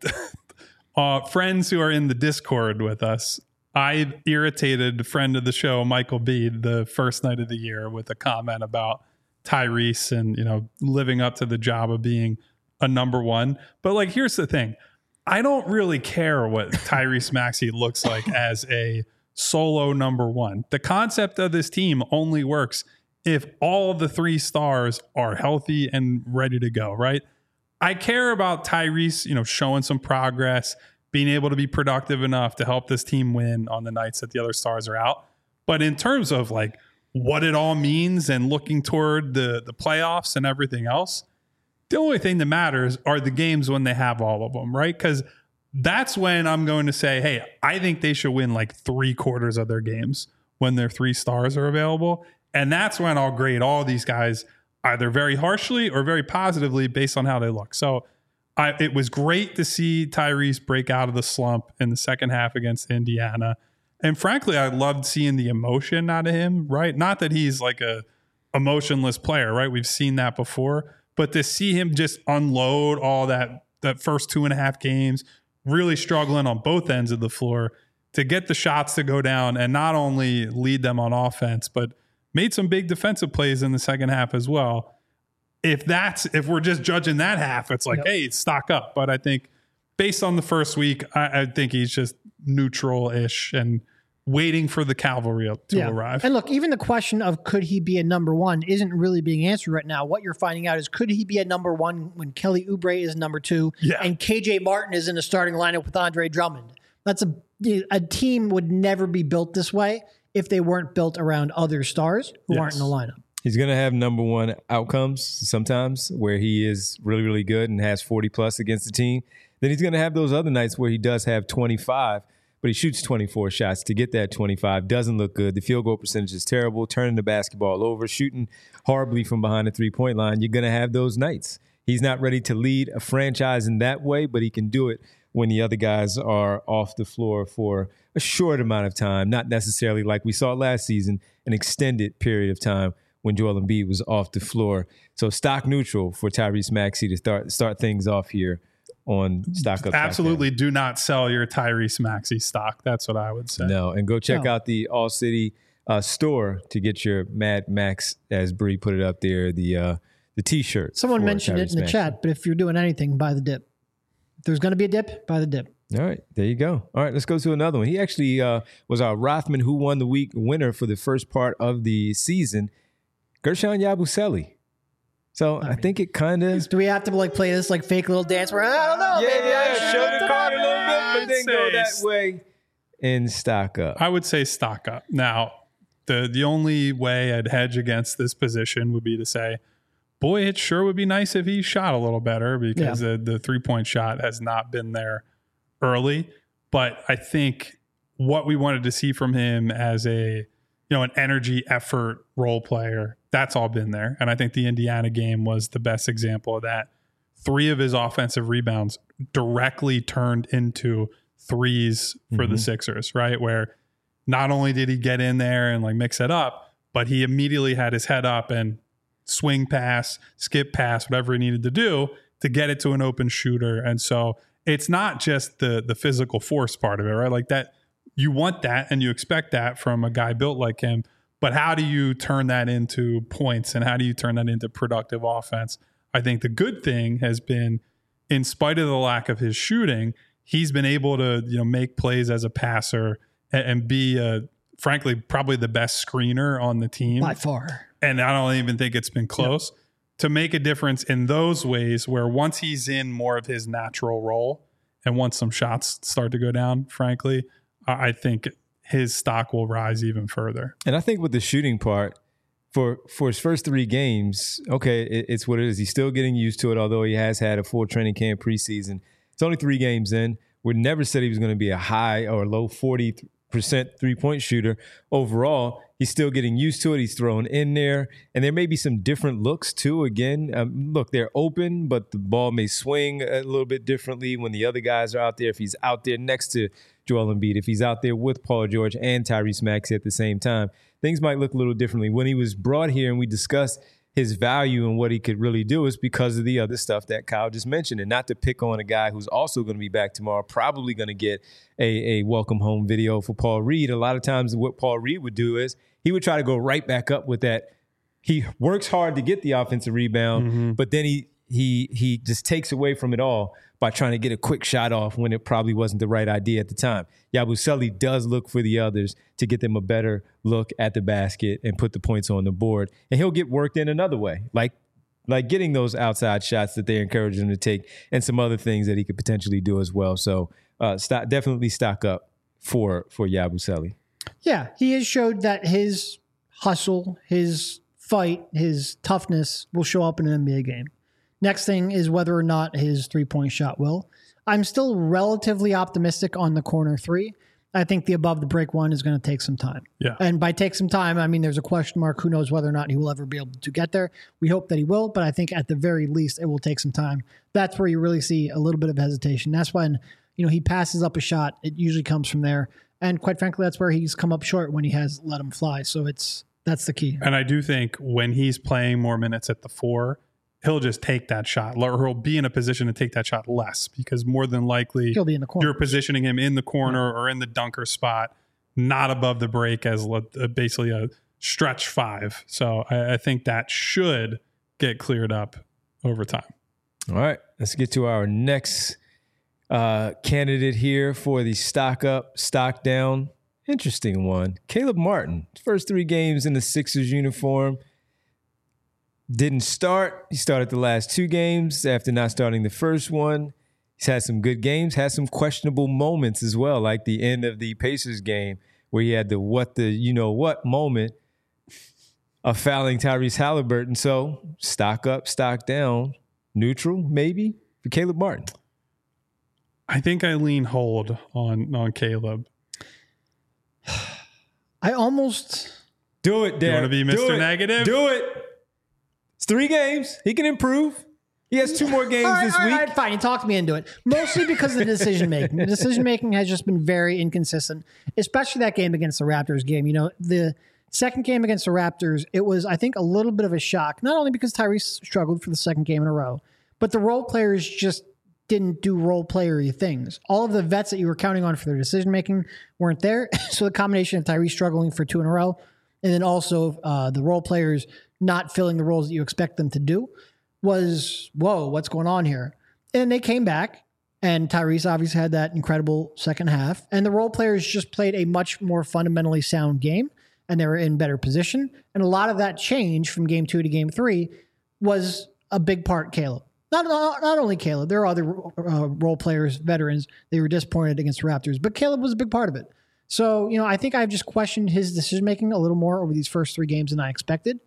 friends who are in the Discord with us, I irritated a friend of the show, Michael Bede, the first night of the year with a comment about Tyrese and, living up to the job of being a number one. But like, here's the thing. I don't really care what Tyrese Maxey looks like as a solo number one. The concept of this team only works if all of the three stars are healthy and ready to go, right? I care about Tyrese, showing some progress, being able to be productive enough to help this team win on the nights that the other stars are out. But in terms of like what it all means and looking toward the playoffs and everything else, the only thing that matters are the games when they have all of them, right? Because that's when I'm going to say, hey, I think they should win like 3/4 of their games when their three stars are available. And that's when I'll grade all these guys either very harshly or very positively based on how they look. So it was great to see Tyrese break out of the slump in the second half against Indiana. And frankly, I loved seeing the emotion out of him, right? Not that he's like a emotionless player, right? We've seen that before. But to see him just unload all that first 2.5 games, really struggling on both ends of the floor, to get the shots to go down and not only lead them on offense, but made some big defensive plays in the second half as well. If we're just judging that half, it's like, hey, stock up. But I think based on the first week, I think he's just neutral-ish and waiting for the cavalry to arrive. And look, even the question of could he be a number one isn't really being answered right now. What you're finding out is could he be a number one when Kelly Oubre is number two and KJ Martin is in the starting lineup with Andre Drummond? That's a team would never be built this way if they weren't built around other stars who aren't in the lineup. He's going to have number one outcomes sometimes where he is really, really good and has 40 plus against the team. Then he's going to have those other nights where he does have 25. but he shoots 24 shots to get that 25. Doesn't look good. The field goal percentage is terrible, turning the basketball over, shooting horribly from behind the three-point line. You're going to have those nights. He's not ready to lead a franchise in that way, but he can do it when the other guys are off the floor for a short amount of time, not necessarily like we saw last season, an extended period of time when Joel Embiid was off the floor. So stock neutral for Tyrese Maxey to start things off here on Stock Up. Absolutely do not sell your Tyrese Maxey stock. That's what I would say. No, and go check out the All City store to get your Mad Max, as Bree put it up there, the T-shirt. Someone mentioned it in the chat, but if you're doing anything, buy the dip. If there's going to be a dip, buy the dip. All right, there you go. All right, let's go to another one. He actually was our Rothman Who Won the Week winner for the first part of the season, Gershon Yabusele. So I think it kind of... Do we have to play this fake little dance where, I don't know, maybe I should show the card a little bit, but then go that way and stock up. I would say stock up. Now, the only way I'd hedge against this position would be to say, boy, it sure would be nice if he shot a little better, because the three-point shot has not been there early. But I think what we wanted to see from him as an energy effort role player, that's all been there. And I think the Indiana game was the best example of that. 3 of his offensive rebounds directly turned into threes for the Sixers, right? Where not only did he get in there and mix it up, but he immediately had his head up and swing pass, skip pass, whatever he needed to do to get it to an open shooter. And so it's not just the physical force part of it, right? That you want that and you expect that from a guy built like him. But how do you turn that into points, and how do you turn that into productive offense? I think the good thing has been, in spite of the lack of his shooting, he's been able to make plays as a passer and be, frankly, probably the best screener on the team. By far. And I don't even think it's been close. Yep. To make a difference in those ways where once he's in more of his natural role and once some shots start to go down, frankly, I think his stock will rise even further. And I think with the shooting part, for his first 3 games, okay, it's what it is. He's still getting used to it, although he has had a full training camp preseason. It's only 3 games in. We never said he was going to be a high or low 40% three-point shooter. Overall, he's still getting used to it. He's thrown in there. And there may be some different looks, too. Again, look, they're open, but the ball may swing a little bit differently when the other guys are out there. If he's out there next to Joel Embiid, if he's out there with Paul George and Tyrese Maxey at the same time, things might look a little differently. When he was brought here and we discussed his value and what he could really do, is because of the other stuff that Kyle just mentioned. And not to pick on a guy who's also going to be back tomorrow, probably going to get a welcome home video for Paul Reed. A lot of times what Paul Reed would do is he would try to go right back up with that. He works hard to get the offensive rebound, but then he just takes away from it all by trying to get a quick shot off when it probably wasn't the right idea at the time. Yabusele does look for the others to get them a better look at the basket and put the points on the board. And he'll get worked in another way, like getting those outside shots that they encourage him to take and some other things that he could potentially do as well. So definitely stock up for Yabusele. Yeah, he has showed that his hustle, his fight, his toughness will show up in an NBA game. Next thing is whether or not his three-point shot will. I'm still relatively optimistic on the corner 3. I think the above the break one is going to take some time. Yeah. And by take some time, I mean there's a question mark. Who knows whether or not he will ever be able to get there. We hope that he will, but I think at the very least it will take some time. That's where you really see a little bit of hesitation. That's when he passes up a shot. It usually comes from there. And quite frankly, that's where he's come up short when he has let him fly. So that's the key. And I do think when he's playing more minutes at the 4, he'll just take that shot, or he'll be in a position to take that shot less, because more than likely he'll be in the corner. You're positioning him in the corner or in the dunker spot, not above the break as basically a stretch 5. So I think that should get cleared up over time. All right, let's get to our next candidate here for the stock up, stock down. Interesting one. Caleb Martin, first 3 games in the Sixers uniform. Didn't start. He started the last 2 games after not starting the first one. He's had some good games, had some questionable moments as well, like the end of the Pacers game where he had the what moment of fouling Tyrese Halliburton. So stock up, stock down, neutral maybe for Caleb Martin. I think I lean hold on Caleb. I almost... Do it, Derek. You want to be Mr. Negative? Do it. It's 3 games. He can improve. He has 2 more games this week. All right, fine. You talked me into it. Mostly because of the decision-making. The decision-making has just been very inconsistent, especially that game against the Raptors game. You know, the second game against the Raptors, it was, I think, a little bit of a shock, not only because Tyrese struggled for the second game in a row, but the role players just didn't do role playery things. All of the vets that you were counting on for their decision-making weren't there. So the combination of Tyrese struggling for 2 in a row, and then also the role players not filling the roles that you expect them to do was, whoa, what's going on here? And they came back, and Tyrese obviously had that incredible second half, and the role players just played a much more fundamentally sound game, and they were in better position. And a lot of that change from game 2 to game 3 was a big part Caleb. Not only Caleb, there are other role players, veterans, they were disappointed against the Raptors, but Caleb was a big part of it. So, you know, I think I've just questioned his decision-making a little more over these first 3 games than I expected.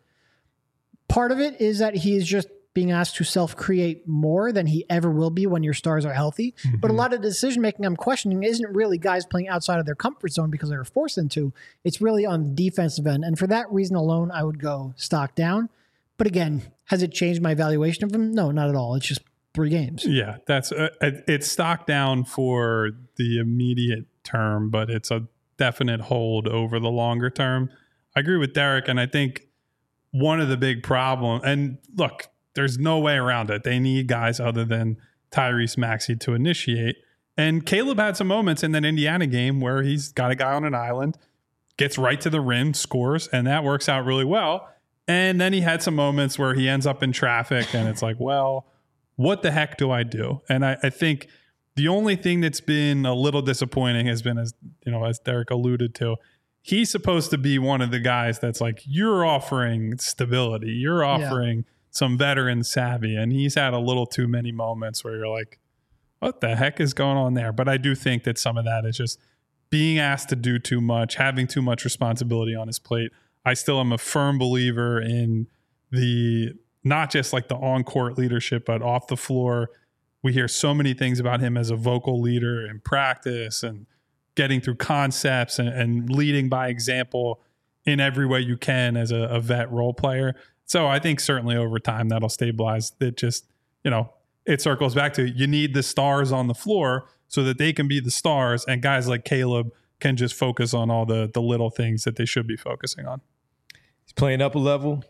Part of it is that he is just being asked to self-create more than he ever will be when your stars are healthy. Mm-hmm. But a lot of the decision-making I'm questioning isn't really guys playing outside of their comfort zone because they were forced into. It's really on the defensive end. And for that reason alone, I would go stock down. But again, has it changed my evaluation of him? No, not at all. It's just 3 games. Yeah, that's it's stock down for the immediate term, but it's a definite hold over the longer term. I agree with Derek, and I think one of the big problems, and look, there's no way around it. They need guys other than Tyrese Maxey to initiate. And Caleb had some moments in that Indiana game where he's got a guy on an island, gets right to the rim, scores, and that works out really well. And then he had some moments where he ends up in traffic, and it's like, well, what the heck do I do? And I think the only thing that's been a little disappointing has been, as you know, as Derek alluded to, he's supposed to be one of the guys that's like, you're offering stability, you're offering some veteran savvy, and he's had a little too many moments where you're like, what the heck is going on there? But I do think that some of that is just being asked to do too much, having too much responsibility on his plate. I still am a firm believer in the, not just like the on-court leadership, but off the floor. We hear so many things about him as a vocal leader in practice and getting through concepts and leading by example in every way you can as a vet role player. So I think certainly over time that'll stabilize. It just, you know, it circles back to you need the stars on the floor so that they can be the stars, and guys like Caleb can just focus on all the little things that they should be focusing on. He's playing up a level,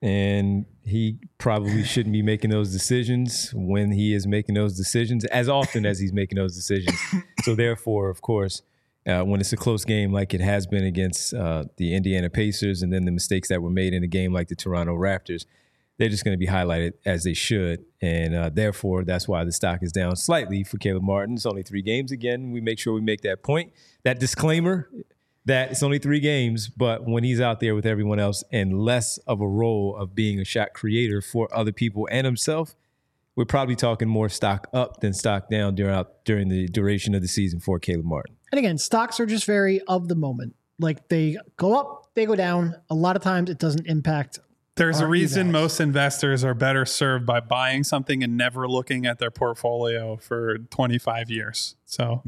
and he probably shouldn't be making those decisions when he is making those decisions as often as he's making those decisions. So therefore, of course, when it's a close game like it has been against the Indiana Pacers, and then the mistakes that were made in a game like the Toronto Raptors, they're just going to be highlighted as they should. And therefore, that's why the stock is down slightly for Caleb Martin. It's only 3 games. Again, we make sure we make that point, that disclaimer that it's only 3 games, but when he's out there with everyone else and less of a role of being a shot creator for other people and himself, we're probably talking more stock up than stock down during the duration of the season for Caleb Martin. And again, stocks are just very of the moment. Like they go up, they go down. A lot of times it doesn't impact. There's a reason most investors are better served by buying something and never looking at their portfolio for 25 years. So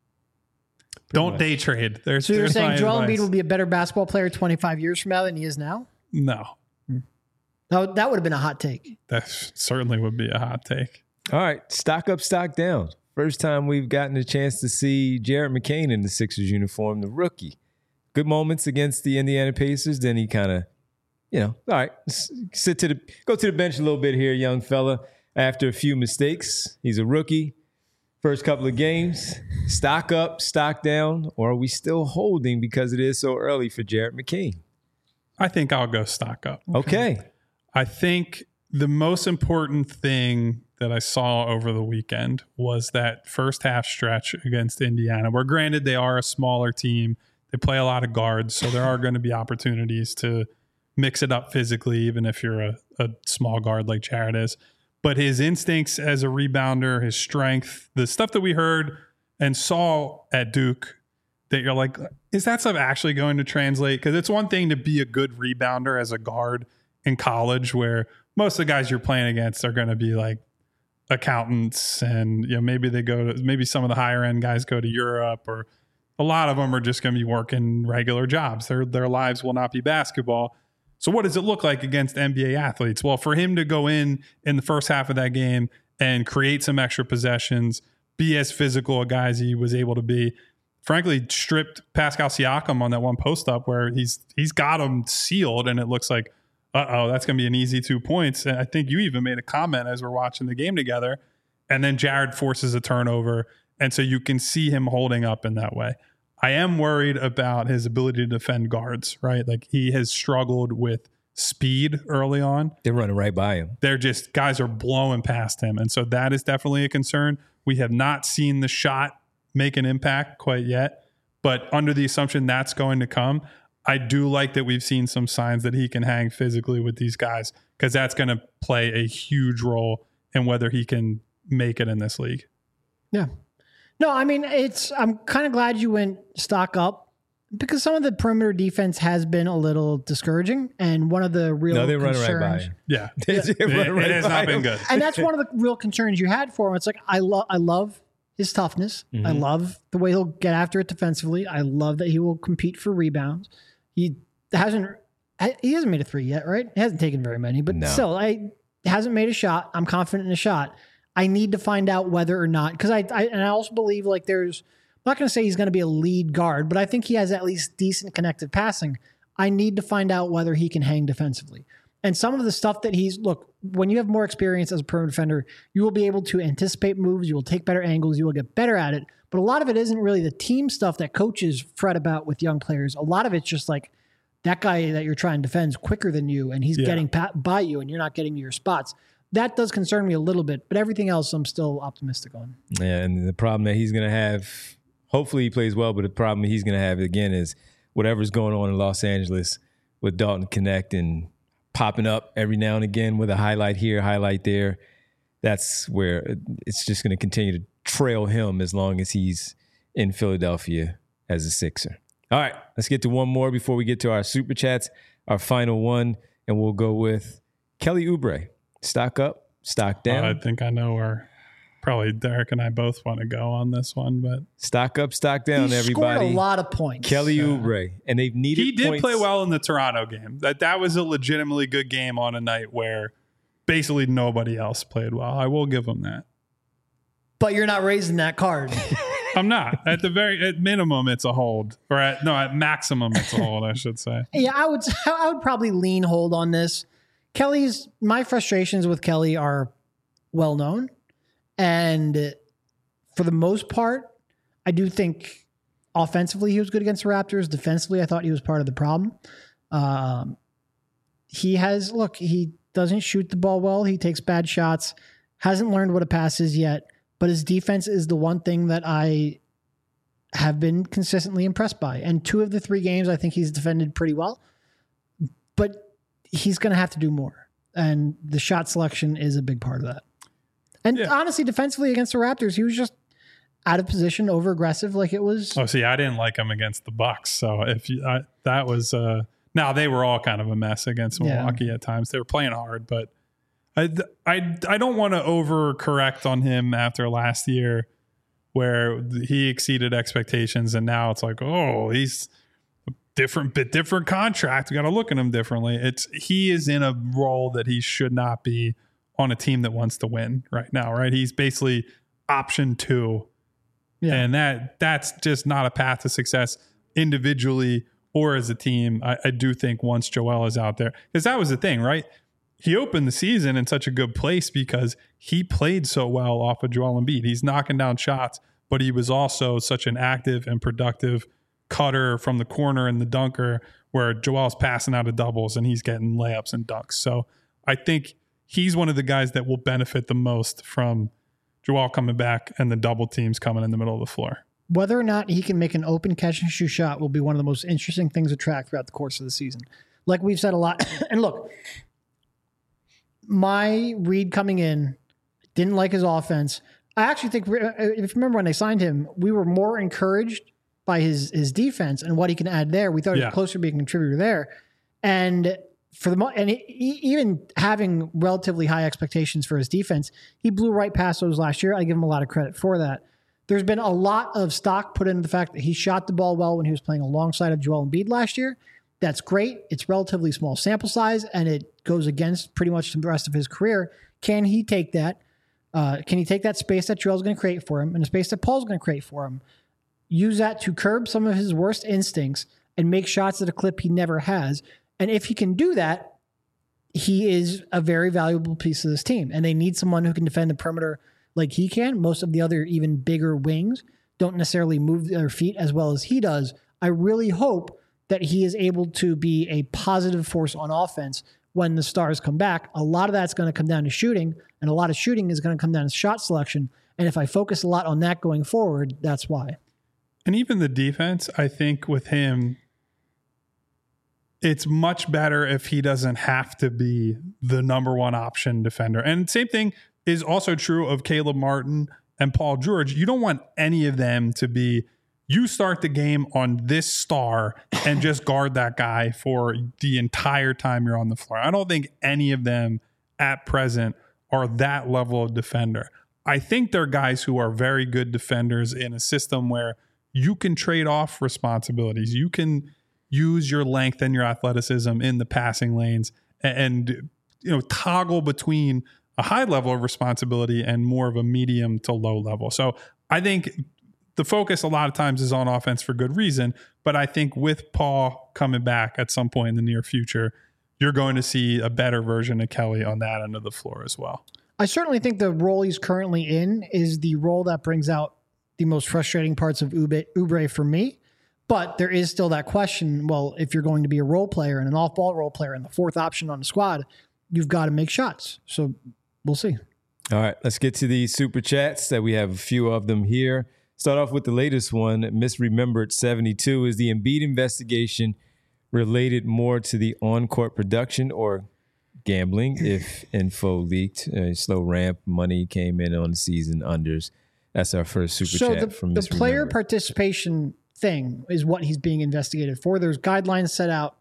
don't day trade. So you're saying Joel Embiid will be a better basketball player 25 years from now than he is now? No. No, that would have been a hot take. That certainly would be a hot take. All right, stock up, stock down. First time we've gotten a chance to see Jared McCain in the Sixers uniform, the rookie. Good moments against the Indiana Pacers. Then he kind of, all right, go to the bench a little bit here, young fella. After a few mistakes, he's a rookie. First couple of games, stock up, stock down, or are we still holding because it is so early for Jared McCain? I think I'll go stock up. Okay. I think the most important thing that I saw over the weekend was that first half stretch against Indiana, where granted they are a smaller team. They play a lot of guards, so there are going to be opportunities to mix it up physically, even if you're a small guard like Jared is. But his instincts as a rebounder, his strength, the stuff that we heard and saw at Duke, that you're like, is that stuff actually going to translate? Because it's one thing to be a good rebounder as a guard in college, where most of the guys you're playing against are going to be like accountants, and maybe maybe some of the higher end guys go to Europe, or a lot of them are just going to be working regular jobs. Their lives will not be basketball. So what does it look like against NBA athletes? Well, for him to go in the first half of that game and create some extra possessions, be as physical a guy as he was able to be, frankly, stripped Pascal Siakam on that one post up where he's got him sealed, and it looks like, that's going to be an easy 2 points. And I think you even made a comment as we're watching the game together, and then Jared forces a turnover, and so you can see him holding up in that way. I am worried about his ability to defend guards, right? Like, he has struggled with speed early on. They're running right by him. Guys are blowing past him. And so that is definitely a concern. We have not seen the shot make an impact quite yet, but under the assumption that's going to come, I do like that we've seen some signs that he can hang physically with these guys, because that's going to play a huge role in whether he can make it in this league. Yeah. No, I mean, I'm kind of glad you went stock up, because some of the perimeter defense has been a little discouraging, and one of the real concerns, running right by him. Yeah, it has not been good. And that's one of the real concerns you had for him. It's like, I love his toughness. Mm-hmm. I love the way he'll get after it defensively. I love that he will compete for rebounds. He hasn't made a three yet, right? He hasn't taken very many, but still, he hasn't made a shot. I'm confident in a shot. I need to find out whether or not, because I also believe, like, I'm not going to say he's going to be a lead guard, but I think he has at least decent connected passing. I need to find out whether he can hang defensively. And some of the stuff that when you have more experience as a perimeter defender, you will be able to anticipate moves, you will take better angles, you will get better at it. But a lot of it isn't really the team stuff that coaches fret about with young players. A lot of it's just like, that guy that you're trying to defend is quicker than you, and he's getting by you, and you're not getting to your spots. That does concern me a little bit, but everything else I'm still optimistic on. Yeah, and the problem that he's going to have, hopefully he plays well, but the problem he's going to have, again, is whatever's going on in Los Angeles with Dalton Knecht and popping up every now and again with a highlight here, highlight there. That's where it's just going to continue to trail him as long as he's in Philadelphia as a Sixer. All right, let's get to one more before we get to our Super Chats, our final one, and we'll go with Kelly Oubre. Stock up, stock down. I think I know where probably Derek and I both want to go on this one, but stock up, stock down, he everybody. Scored a lot of points. Kelly Oubre, and they've needed. He did points. play well in the Toronto game. That was a legitimately good game on a night where basically nobody else played well. I will give him that. But you're not raising that card. I'm not. At minimum, it's a hold, or at maximum, it's a hold. I should say. Yeah, I would probably lean hold on this. My frustrations with Kelly are well known, and for the most part, I do think offensively he was good against the Raptors. Defensively, I thought he was part of the problem. He doesn't shoot the ball well. He takes bad shots. Hasn't learned what a pass is yet, but his defense is the one thing that I have been consistently impressed by. And 2 of the 3 games, I think he's defended pretty well, but he's going to have to do more. And the shot selection is a big part of that. And honestly, defensively against the Raptors, he was just out of position, over aggressive, like it was. Oh, see, I didn't like him against the Bucks. So that was now they were all kind of a mess against Milwaukee at times. They were playing hard, but I don't want to overcorrect on him after last year where he exceeded expectations, and now it's like, oh, he's different contract. We got to look at him differently. He is in a role that he should not be on a team that wants to win right now, right? He's basically option 2. Yeah. And that's just not a path to success individually or as a team. I do think once Joel is out there, because that was the thing, right? He opened the season in such a good place because he played so well off of Joel Embiid. He's knocking down shots, but he was also such an active and productive cutter from the corner and the dunker, where Joel's passing out of doubles and he's getting layups and dunks. So I think he's one of the guys that will benefit the most from Joel coming back and the double teams coming in the middle of the floor. Whether or not he can make an open catch and shoot shot will be one of the most interesting things to track throughout the course of the season. Like we've said a lot. And look, my read coming in, didn't like his offense. I actually think, if you remember when they signed him, we were more encouraged by his defense and what he can add there. We thought he was closer to being a contributor there. And even having relatively high expectations for his defense, he blew right past those last year. I give him a lot of credit for that. There's been a lot of stock put into the fact that he shot the ball well when he was playing alongside of Joel Embiid last year. That's great. It's relatively small sample size, and it goes against pretty much the rest of his career. Can he take that? Can he take that space that Joel's going to create for him and the space that Paul's going to create for him, use that to curb some of his worst instincts and make shots at a clip he never has? And if he can do that, he is a very valuable piece of this team. And they need someone who can defend the perimeter like he can. Most of the other even bigger wings don't necessarily move their feet as well as he does. I really hope that he is able to be a positive force on offense when the stars come back. A lot of that's going to come down to shooting, and a lot of shooting is going to come down to shot selection. And if I focus a lot on that going forward, that's why. And even the defense, I think with him, it's much better if he doesn't have to be the number one option defender. And same thing is also true of Caleb Martin and Paul George. You don't want any of them to be, you start the game on this star and just guard that guy for the entire time you're on the floor. I don't think any of them at present are that level of defender. I think they're guys who are very good defenders in a system where you can trade off responsibilities. You can use your length and your athleticism in the passing lanes and toggle between a high level of responsibility and more of a medium to low level. So I think the focus a lot of times is on offense for good reason, but I think with Paul coming back at some point in the near future, you're going to see a better version of Kelly on that end of the floor as well. I certainly think the role he's currently in is the role that brings out the most frustrating parts of Oubre for me. But there is still that question, well, if you're going to be a role player and an off-ball role player and the fourth option on the squad, you've got to make shots. So we'll see. All right, let's get to the super chats that we have a few of them here. Start off with the latest one. Misremembered 72. Is the Embiid investigation related more to the on-court production or gambling? If info leaked, slow ramp, money came in on the season unders. That's our first super chat from Misremembered. The player participation thing is what he's being investigated for. There's guidelines set out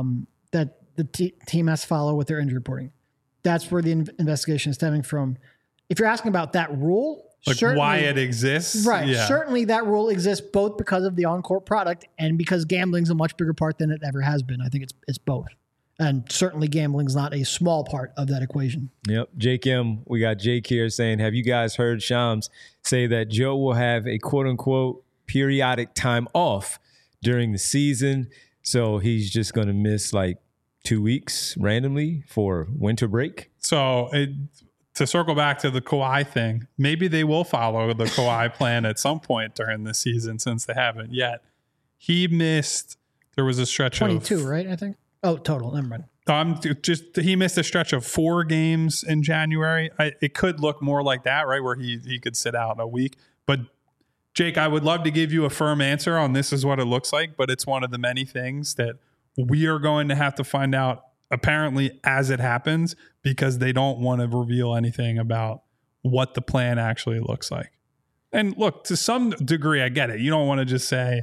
that the team has to follow with their injury reporting. That's where the investigation is stemming from. If you're asking about that rule, like why it exists, right? Yeah. Certainly, that rule exists both because of the on-court product and because gambling's a much bigger part than it ever has been. I think it's both, and certainly gambling's not a small part of that equation. Yep, Jake M. We got Jake here saying, "Have you guys heard Shams say that Joe will have a quote-unquote periodic time off during the season, so he's just going to miss like 2 weeks randomly for winter break?" So to circle back to the Kawhi thing, maybe they will follow the Kawhi plan at some point during the season since they haven't yet. He missed, there was a stretch 22, right? I think. Oh, total. Never mind. He missed a stretch of 4 games in January. It could look more like that, right? Where he could sit out a week. But Jake, I would love to give you a firm answer on this is what it looks like, but it's one of the many things that we are going to have to find out apparently as it happens, because they don't want to reveal anything about what the plan actually looks like. And look, to some degree, I get it. You don't want to just say,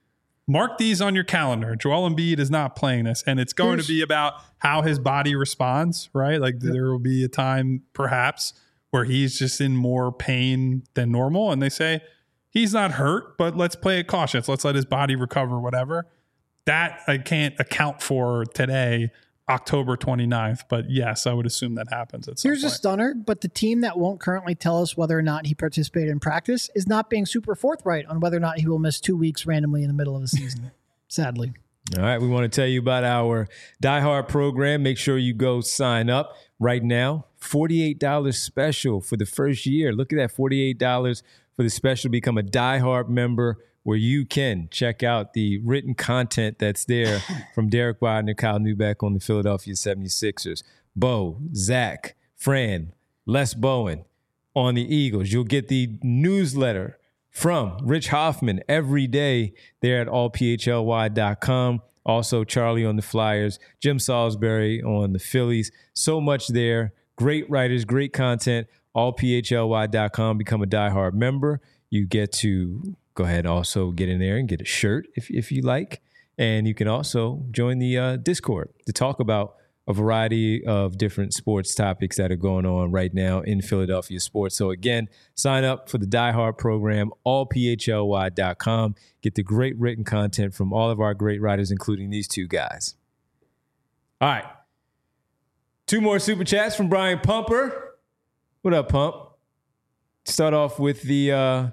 mark these on your calendar. Joel Embiid is not playing this. And it's going to be about how his body responds, right? Like there will be a time perhaps where he's just in more pain than normal. And they say, he's not hurt, but let's play it cautious. Let's let his body recover, whatever. That I can't account for today, October 29th. But yes, I would assume that happens at some point. Here's a stunner, but the team that won't currently tell us whether or not he participated in practice is not being super forthright on whether or not he will miss 2 weeks randomly in the middle of the season, sadly. All right, we want to tell you about our Die Hard program. Make sure you go sign up right now. $48 special for the first year. Look at that, $48 for the special. Become a Die Hard member where you can check out the written content that's there from Derek Wagner, Kyle Neubeck on the Philadelphia 76ers, Bo, Zach, Fran, Les Bowen on the Eagles. You'll get the newsletter from Rich Hoffman every day there at allphly.com. Also, Charlie on the Flyers, Jim Salisbury on the Phillies. So much there. Great writers, great content. Allphly.com. Become a Die Hard member. You get to go ahead and also get in there and get a shirt if you like. And you can also join the Discord to talk about a variety of different sports topics that are going on right now in Philadelphia sports. So again, sign up for the Die Hard program, allphly.com. Get the great written content from all of our great writers, including these two guys. All right. 2 more super chats from Brian Pumper. What up, Pump? Start off with the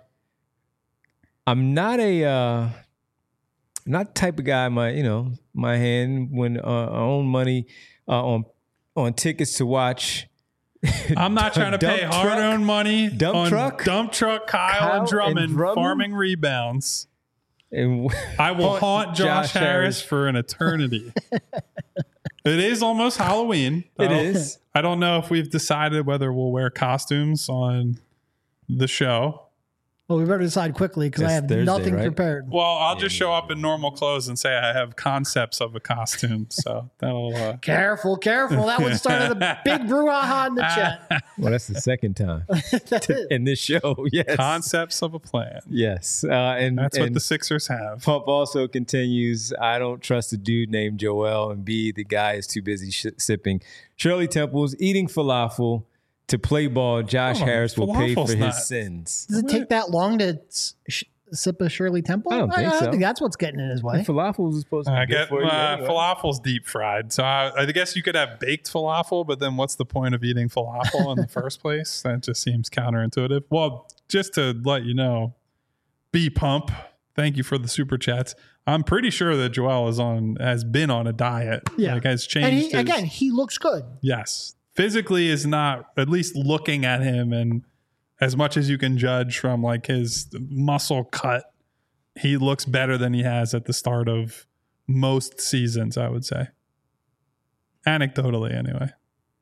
I'm not the type of guy my hand when I own money on tickets to watch. I'm not trying to pay hard-earned money Dump truck Kyle and Drummond farming rebounds. And I will haunt Josh Harris for an eternity. It is almost Halloween. It is. I don't know if we've decided whether we'll wear costumes on the show. Well, we better decide quickly because I have Thursday, nothing right? prepared. Well, I'll just show up in normal clothes and say I have concepts of a costume. So that'll... Careful. That would start a big brouhaha in the chat. Well, that's the second time in this show. Yes. Concepts of a plan. Yes. And that's what the Sixers have. Pump also continues, I don't trust a dude named Joel, and B, the guy is too busy sipping Shirley Temple's eating falafel to play ball. Josh Harris will pay for his sins. Does it take that long to sip a Shirley Temple? I don't think so. I think that's what's getting in his way. Falafel is supposed to be good for you anyway. Falafel's deep fried. So I guess you could have baked falafel, but then what's the point of eating falafel in the first place? That just seems counterintuitive. Well, just to let you know, B Pump, thank you for the super chats. I'm pretty sure that Joel has been on a diet. Yeah. Like has changed. And he looks good. Yes. Physically is not, at least looking at him, and as much as you can judge from like his muscle cut, he looks better than he has at the start of most seasons, I would say. Anecdotally, anyway.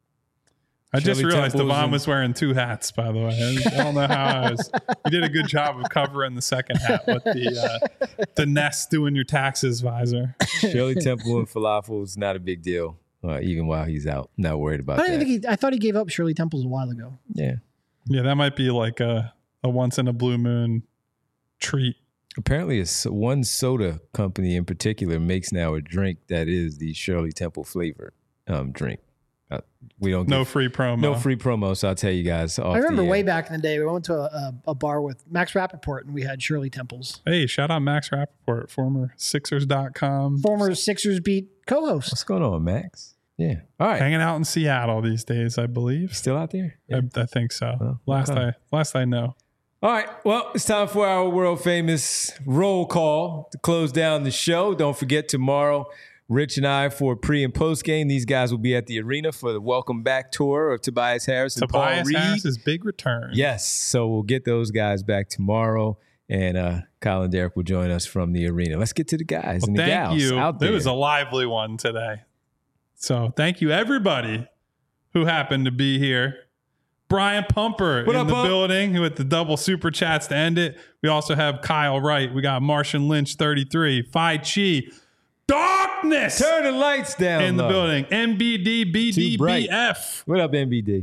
I just realized Devon was wearing 2 hats, by the way. I don't know how you did a good job of covering the second hat with the Nest doing your taxes visor. Shirley Temple and falafel is not a big deal. Even while he's out, not worried about that. I thought he gave up Shirley Temples a while ago. Yeah, that might be like a once in a blue moon treat. Apparently, one soda company in particular makes now a drink that is the Shirley Temple flavor drink. We don't no free promo. No free promo. So I'll tell you guys. I remember way back in the day, we went to a bar with Max Rappaport and we had Shirley Temples. Hey, shout out Max Rappaport, former Sixers.com. Former Sixers Beat co-host. What's going on, Max? Yeah. All right. Hanging out in Seattle these days, I believe. Still out there? Yeah. I think so. Well, last I know. All right. Well, it's time for our world famous roll call to close down the show. Don't forget tomorrow, Rich and I for pre and post game. These guys will be at the arena for the welcome back tour of Tobias Harris and Paul Reed. Tobias Harris's big return. Yes. So we'll get those guys back tomorrow, and Kyle and Derek will join us from the arena. Let's get to the guys and the gals out there. It was a lively one today. So thank you, everybody who happened to be here. Brian Pumper in the building with the double super chats to end it. We also have Kyle Wright. We got Martian Lynch 33, Phi Chi. Darkness. Turn the lights down in the building. MBD BDBF. What up, MBD?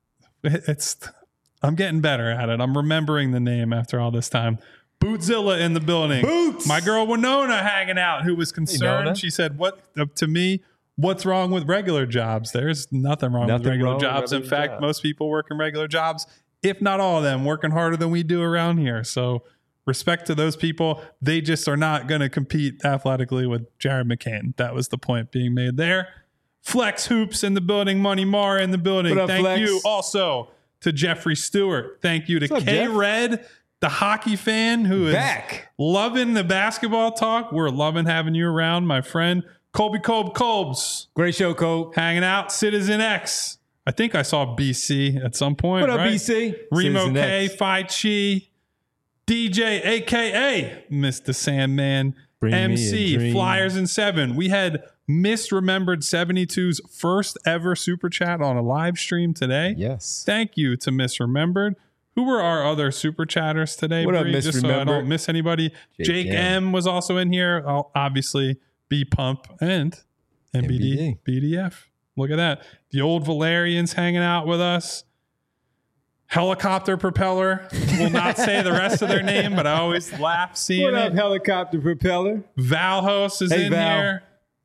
I'm getting better at it. I'm remembering the name after all this time. Bootzilla in the building. Boots. My girl Winona hanging out, who was concerned. She said, what's wrong with regular jobs? There's nothing wrong with regular jobs. In fact, most people work in regular jobs, if not all of them, working harder than we do around here. So respect to those people. They just are not going to compete athletically with Jared McCain. That was the point being made there. Flex Hoops in the building. Money Mar in the building. Thank you also to Jeffrey Stewart. Thank you to K-Red, the hockey fan who is loving the basketball talk. We're loving having you around, my friend. Colby Colbs. Great show, Colb. Hanging out. Citizen X. I think I saw BC at some point. What up, BC? Remo K, Phi Chi, DJ, a.k.a. Mr. Sandman, MC, Flyers in 7. We had Misremembered 72's first ever super chat on a live stream today. Yes. Thank you to Misremembered. Who were our other super chatters today? What up, Misremembered? Just so I don't miss anybody. Jake M was also in here. Obviously, B Pump and MBD BDF. Look at that. The old Valerians hanging out with us. Helicopter Propeller. Will not say the rest of their name, but I always laugh seeing it. What up, Helicopter Propeller? Valhos is in here.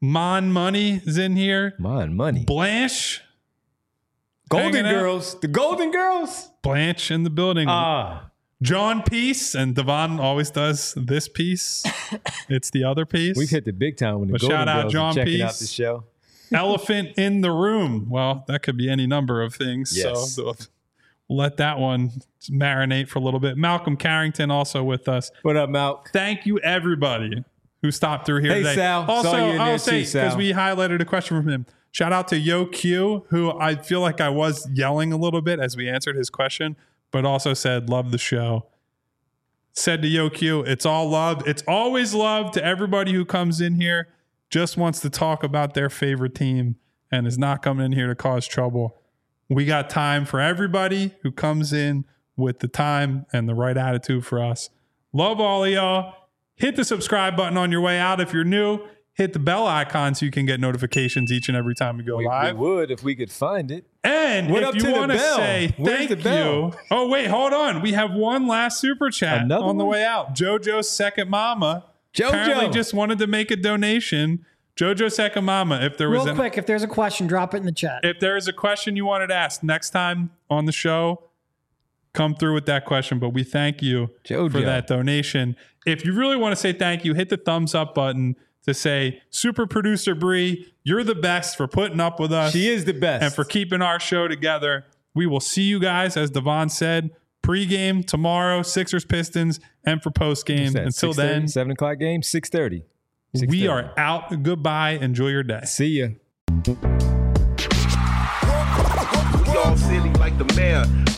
Mon Money is in here. Mon Money. Blanche. Golden hanging out. Girls. The Golden Girls. Blanche in the building. John Peace, and Devon always does this piece. It's the other piece. We've hit the big time when the But Golden shout out Girls John are checking Peace. out the show. Elephant in the room. Well, that could be any number of things. Yes. So we'll let that one marinate for a little bit. Malcolm Carrington also with us. What up, Malk? Thank you, everybody who stopped through here Hey, today. Sal. Also, Saw you in there I'll say, too, Sal. because we highlighted a question from him, shout out to Yo Q, who I feel like I was yelling a little bit as we answered his question, but also said, love the show. Said to Yo Q, it's all love. It's always love to everybody who comes in here, just wants to talk about their favorite team and is not coming in here to cause trouble. We got time for everybody who comes in with the time and the right attitude for us. Love all of y'all. Hit the subscribe button on your way out if you're new. Hit the bell icon so you can get notifications each and every time we go We live. would if we could find it. And What up if to you the want to bell? say Where's thank the bell? you. Oh, wait, hold on. We have one last super chat Another on the one? way out. JoJo's second mama. JoJo. Apparently just wanted to make a donation. JoJo's second mama. If there was Real quick, if there's a question, drop it in the chat. if there is a question you wanted to ask next time on the show, come through with that question. But we thank you JoJo. for that donation. If you really want to say thank you, hit the thumbs up button to say, Super Producer Bree, you're the best for putting up with us She is the best. and for keeping our show together. We will see you guys, as Devon said, pregame tomorrow, Sixers, Pistons, and for postgame. What's that, Until 6:30, then, 7 o'clock game, 6:30. we are out. Goodbye. Enjoy your day. See ya. We all silly like the mayor.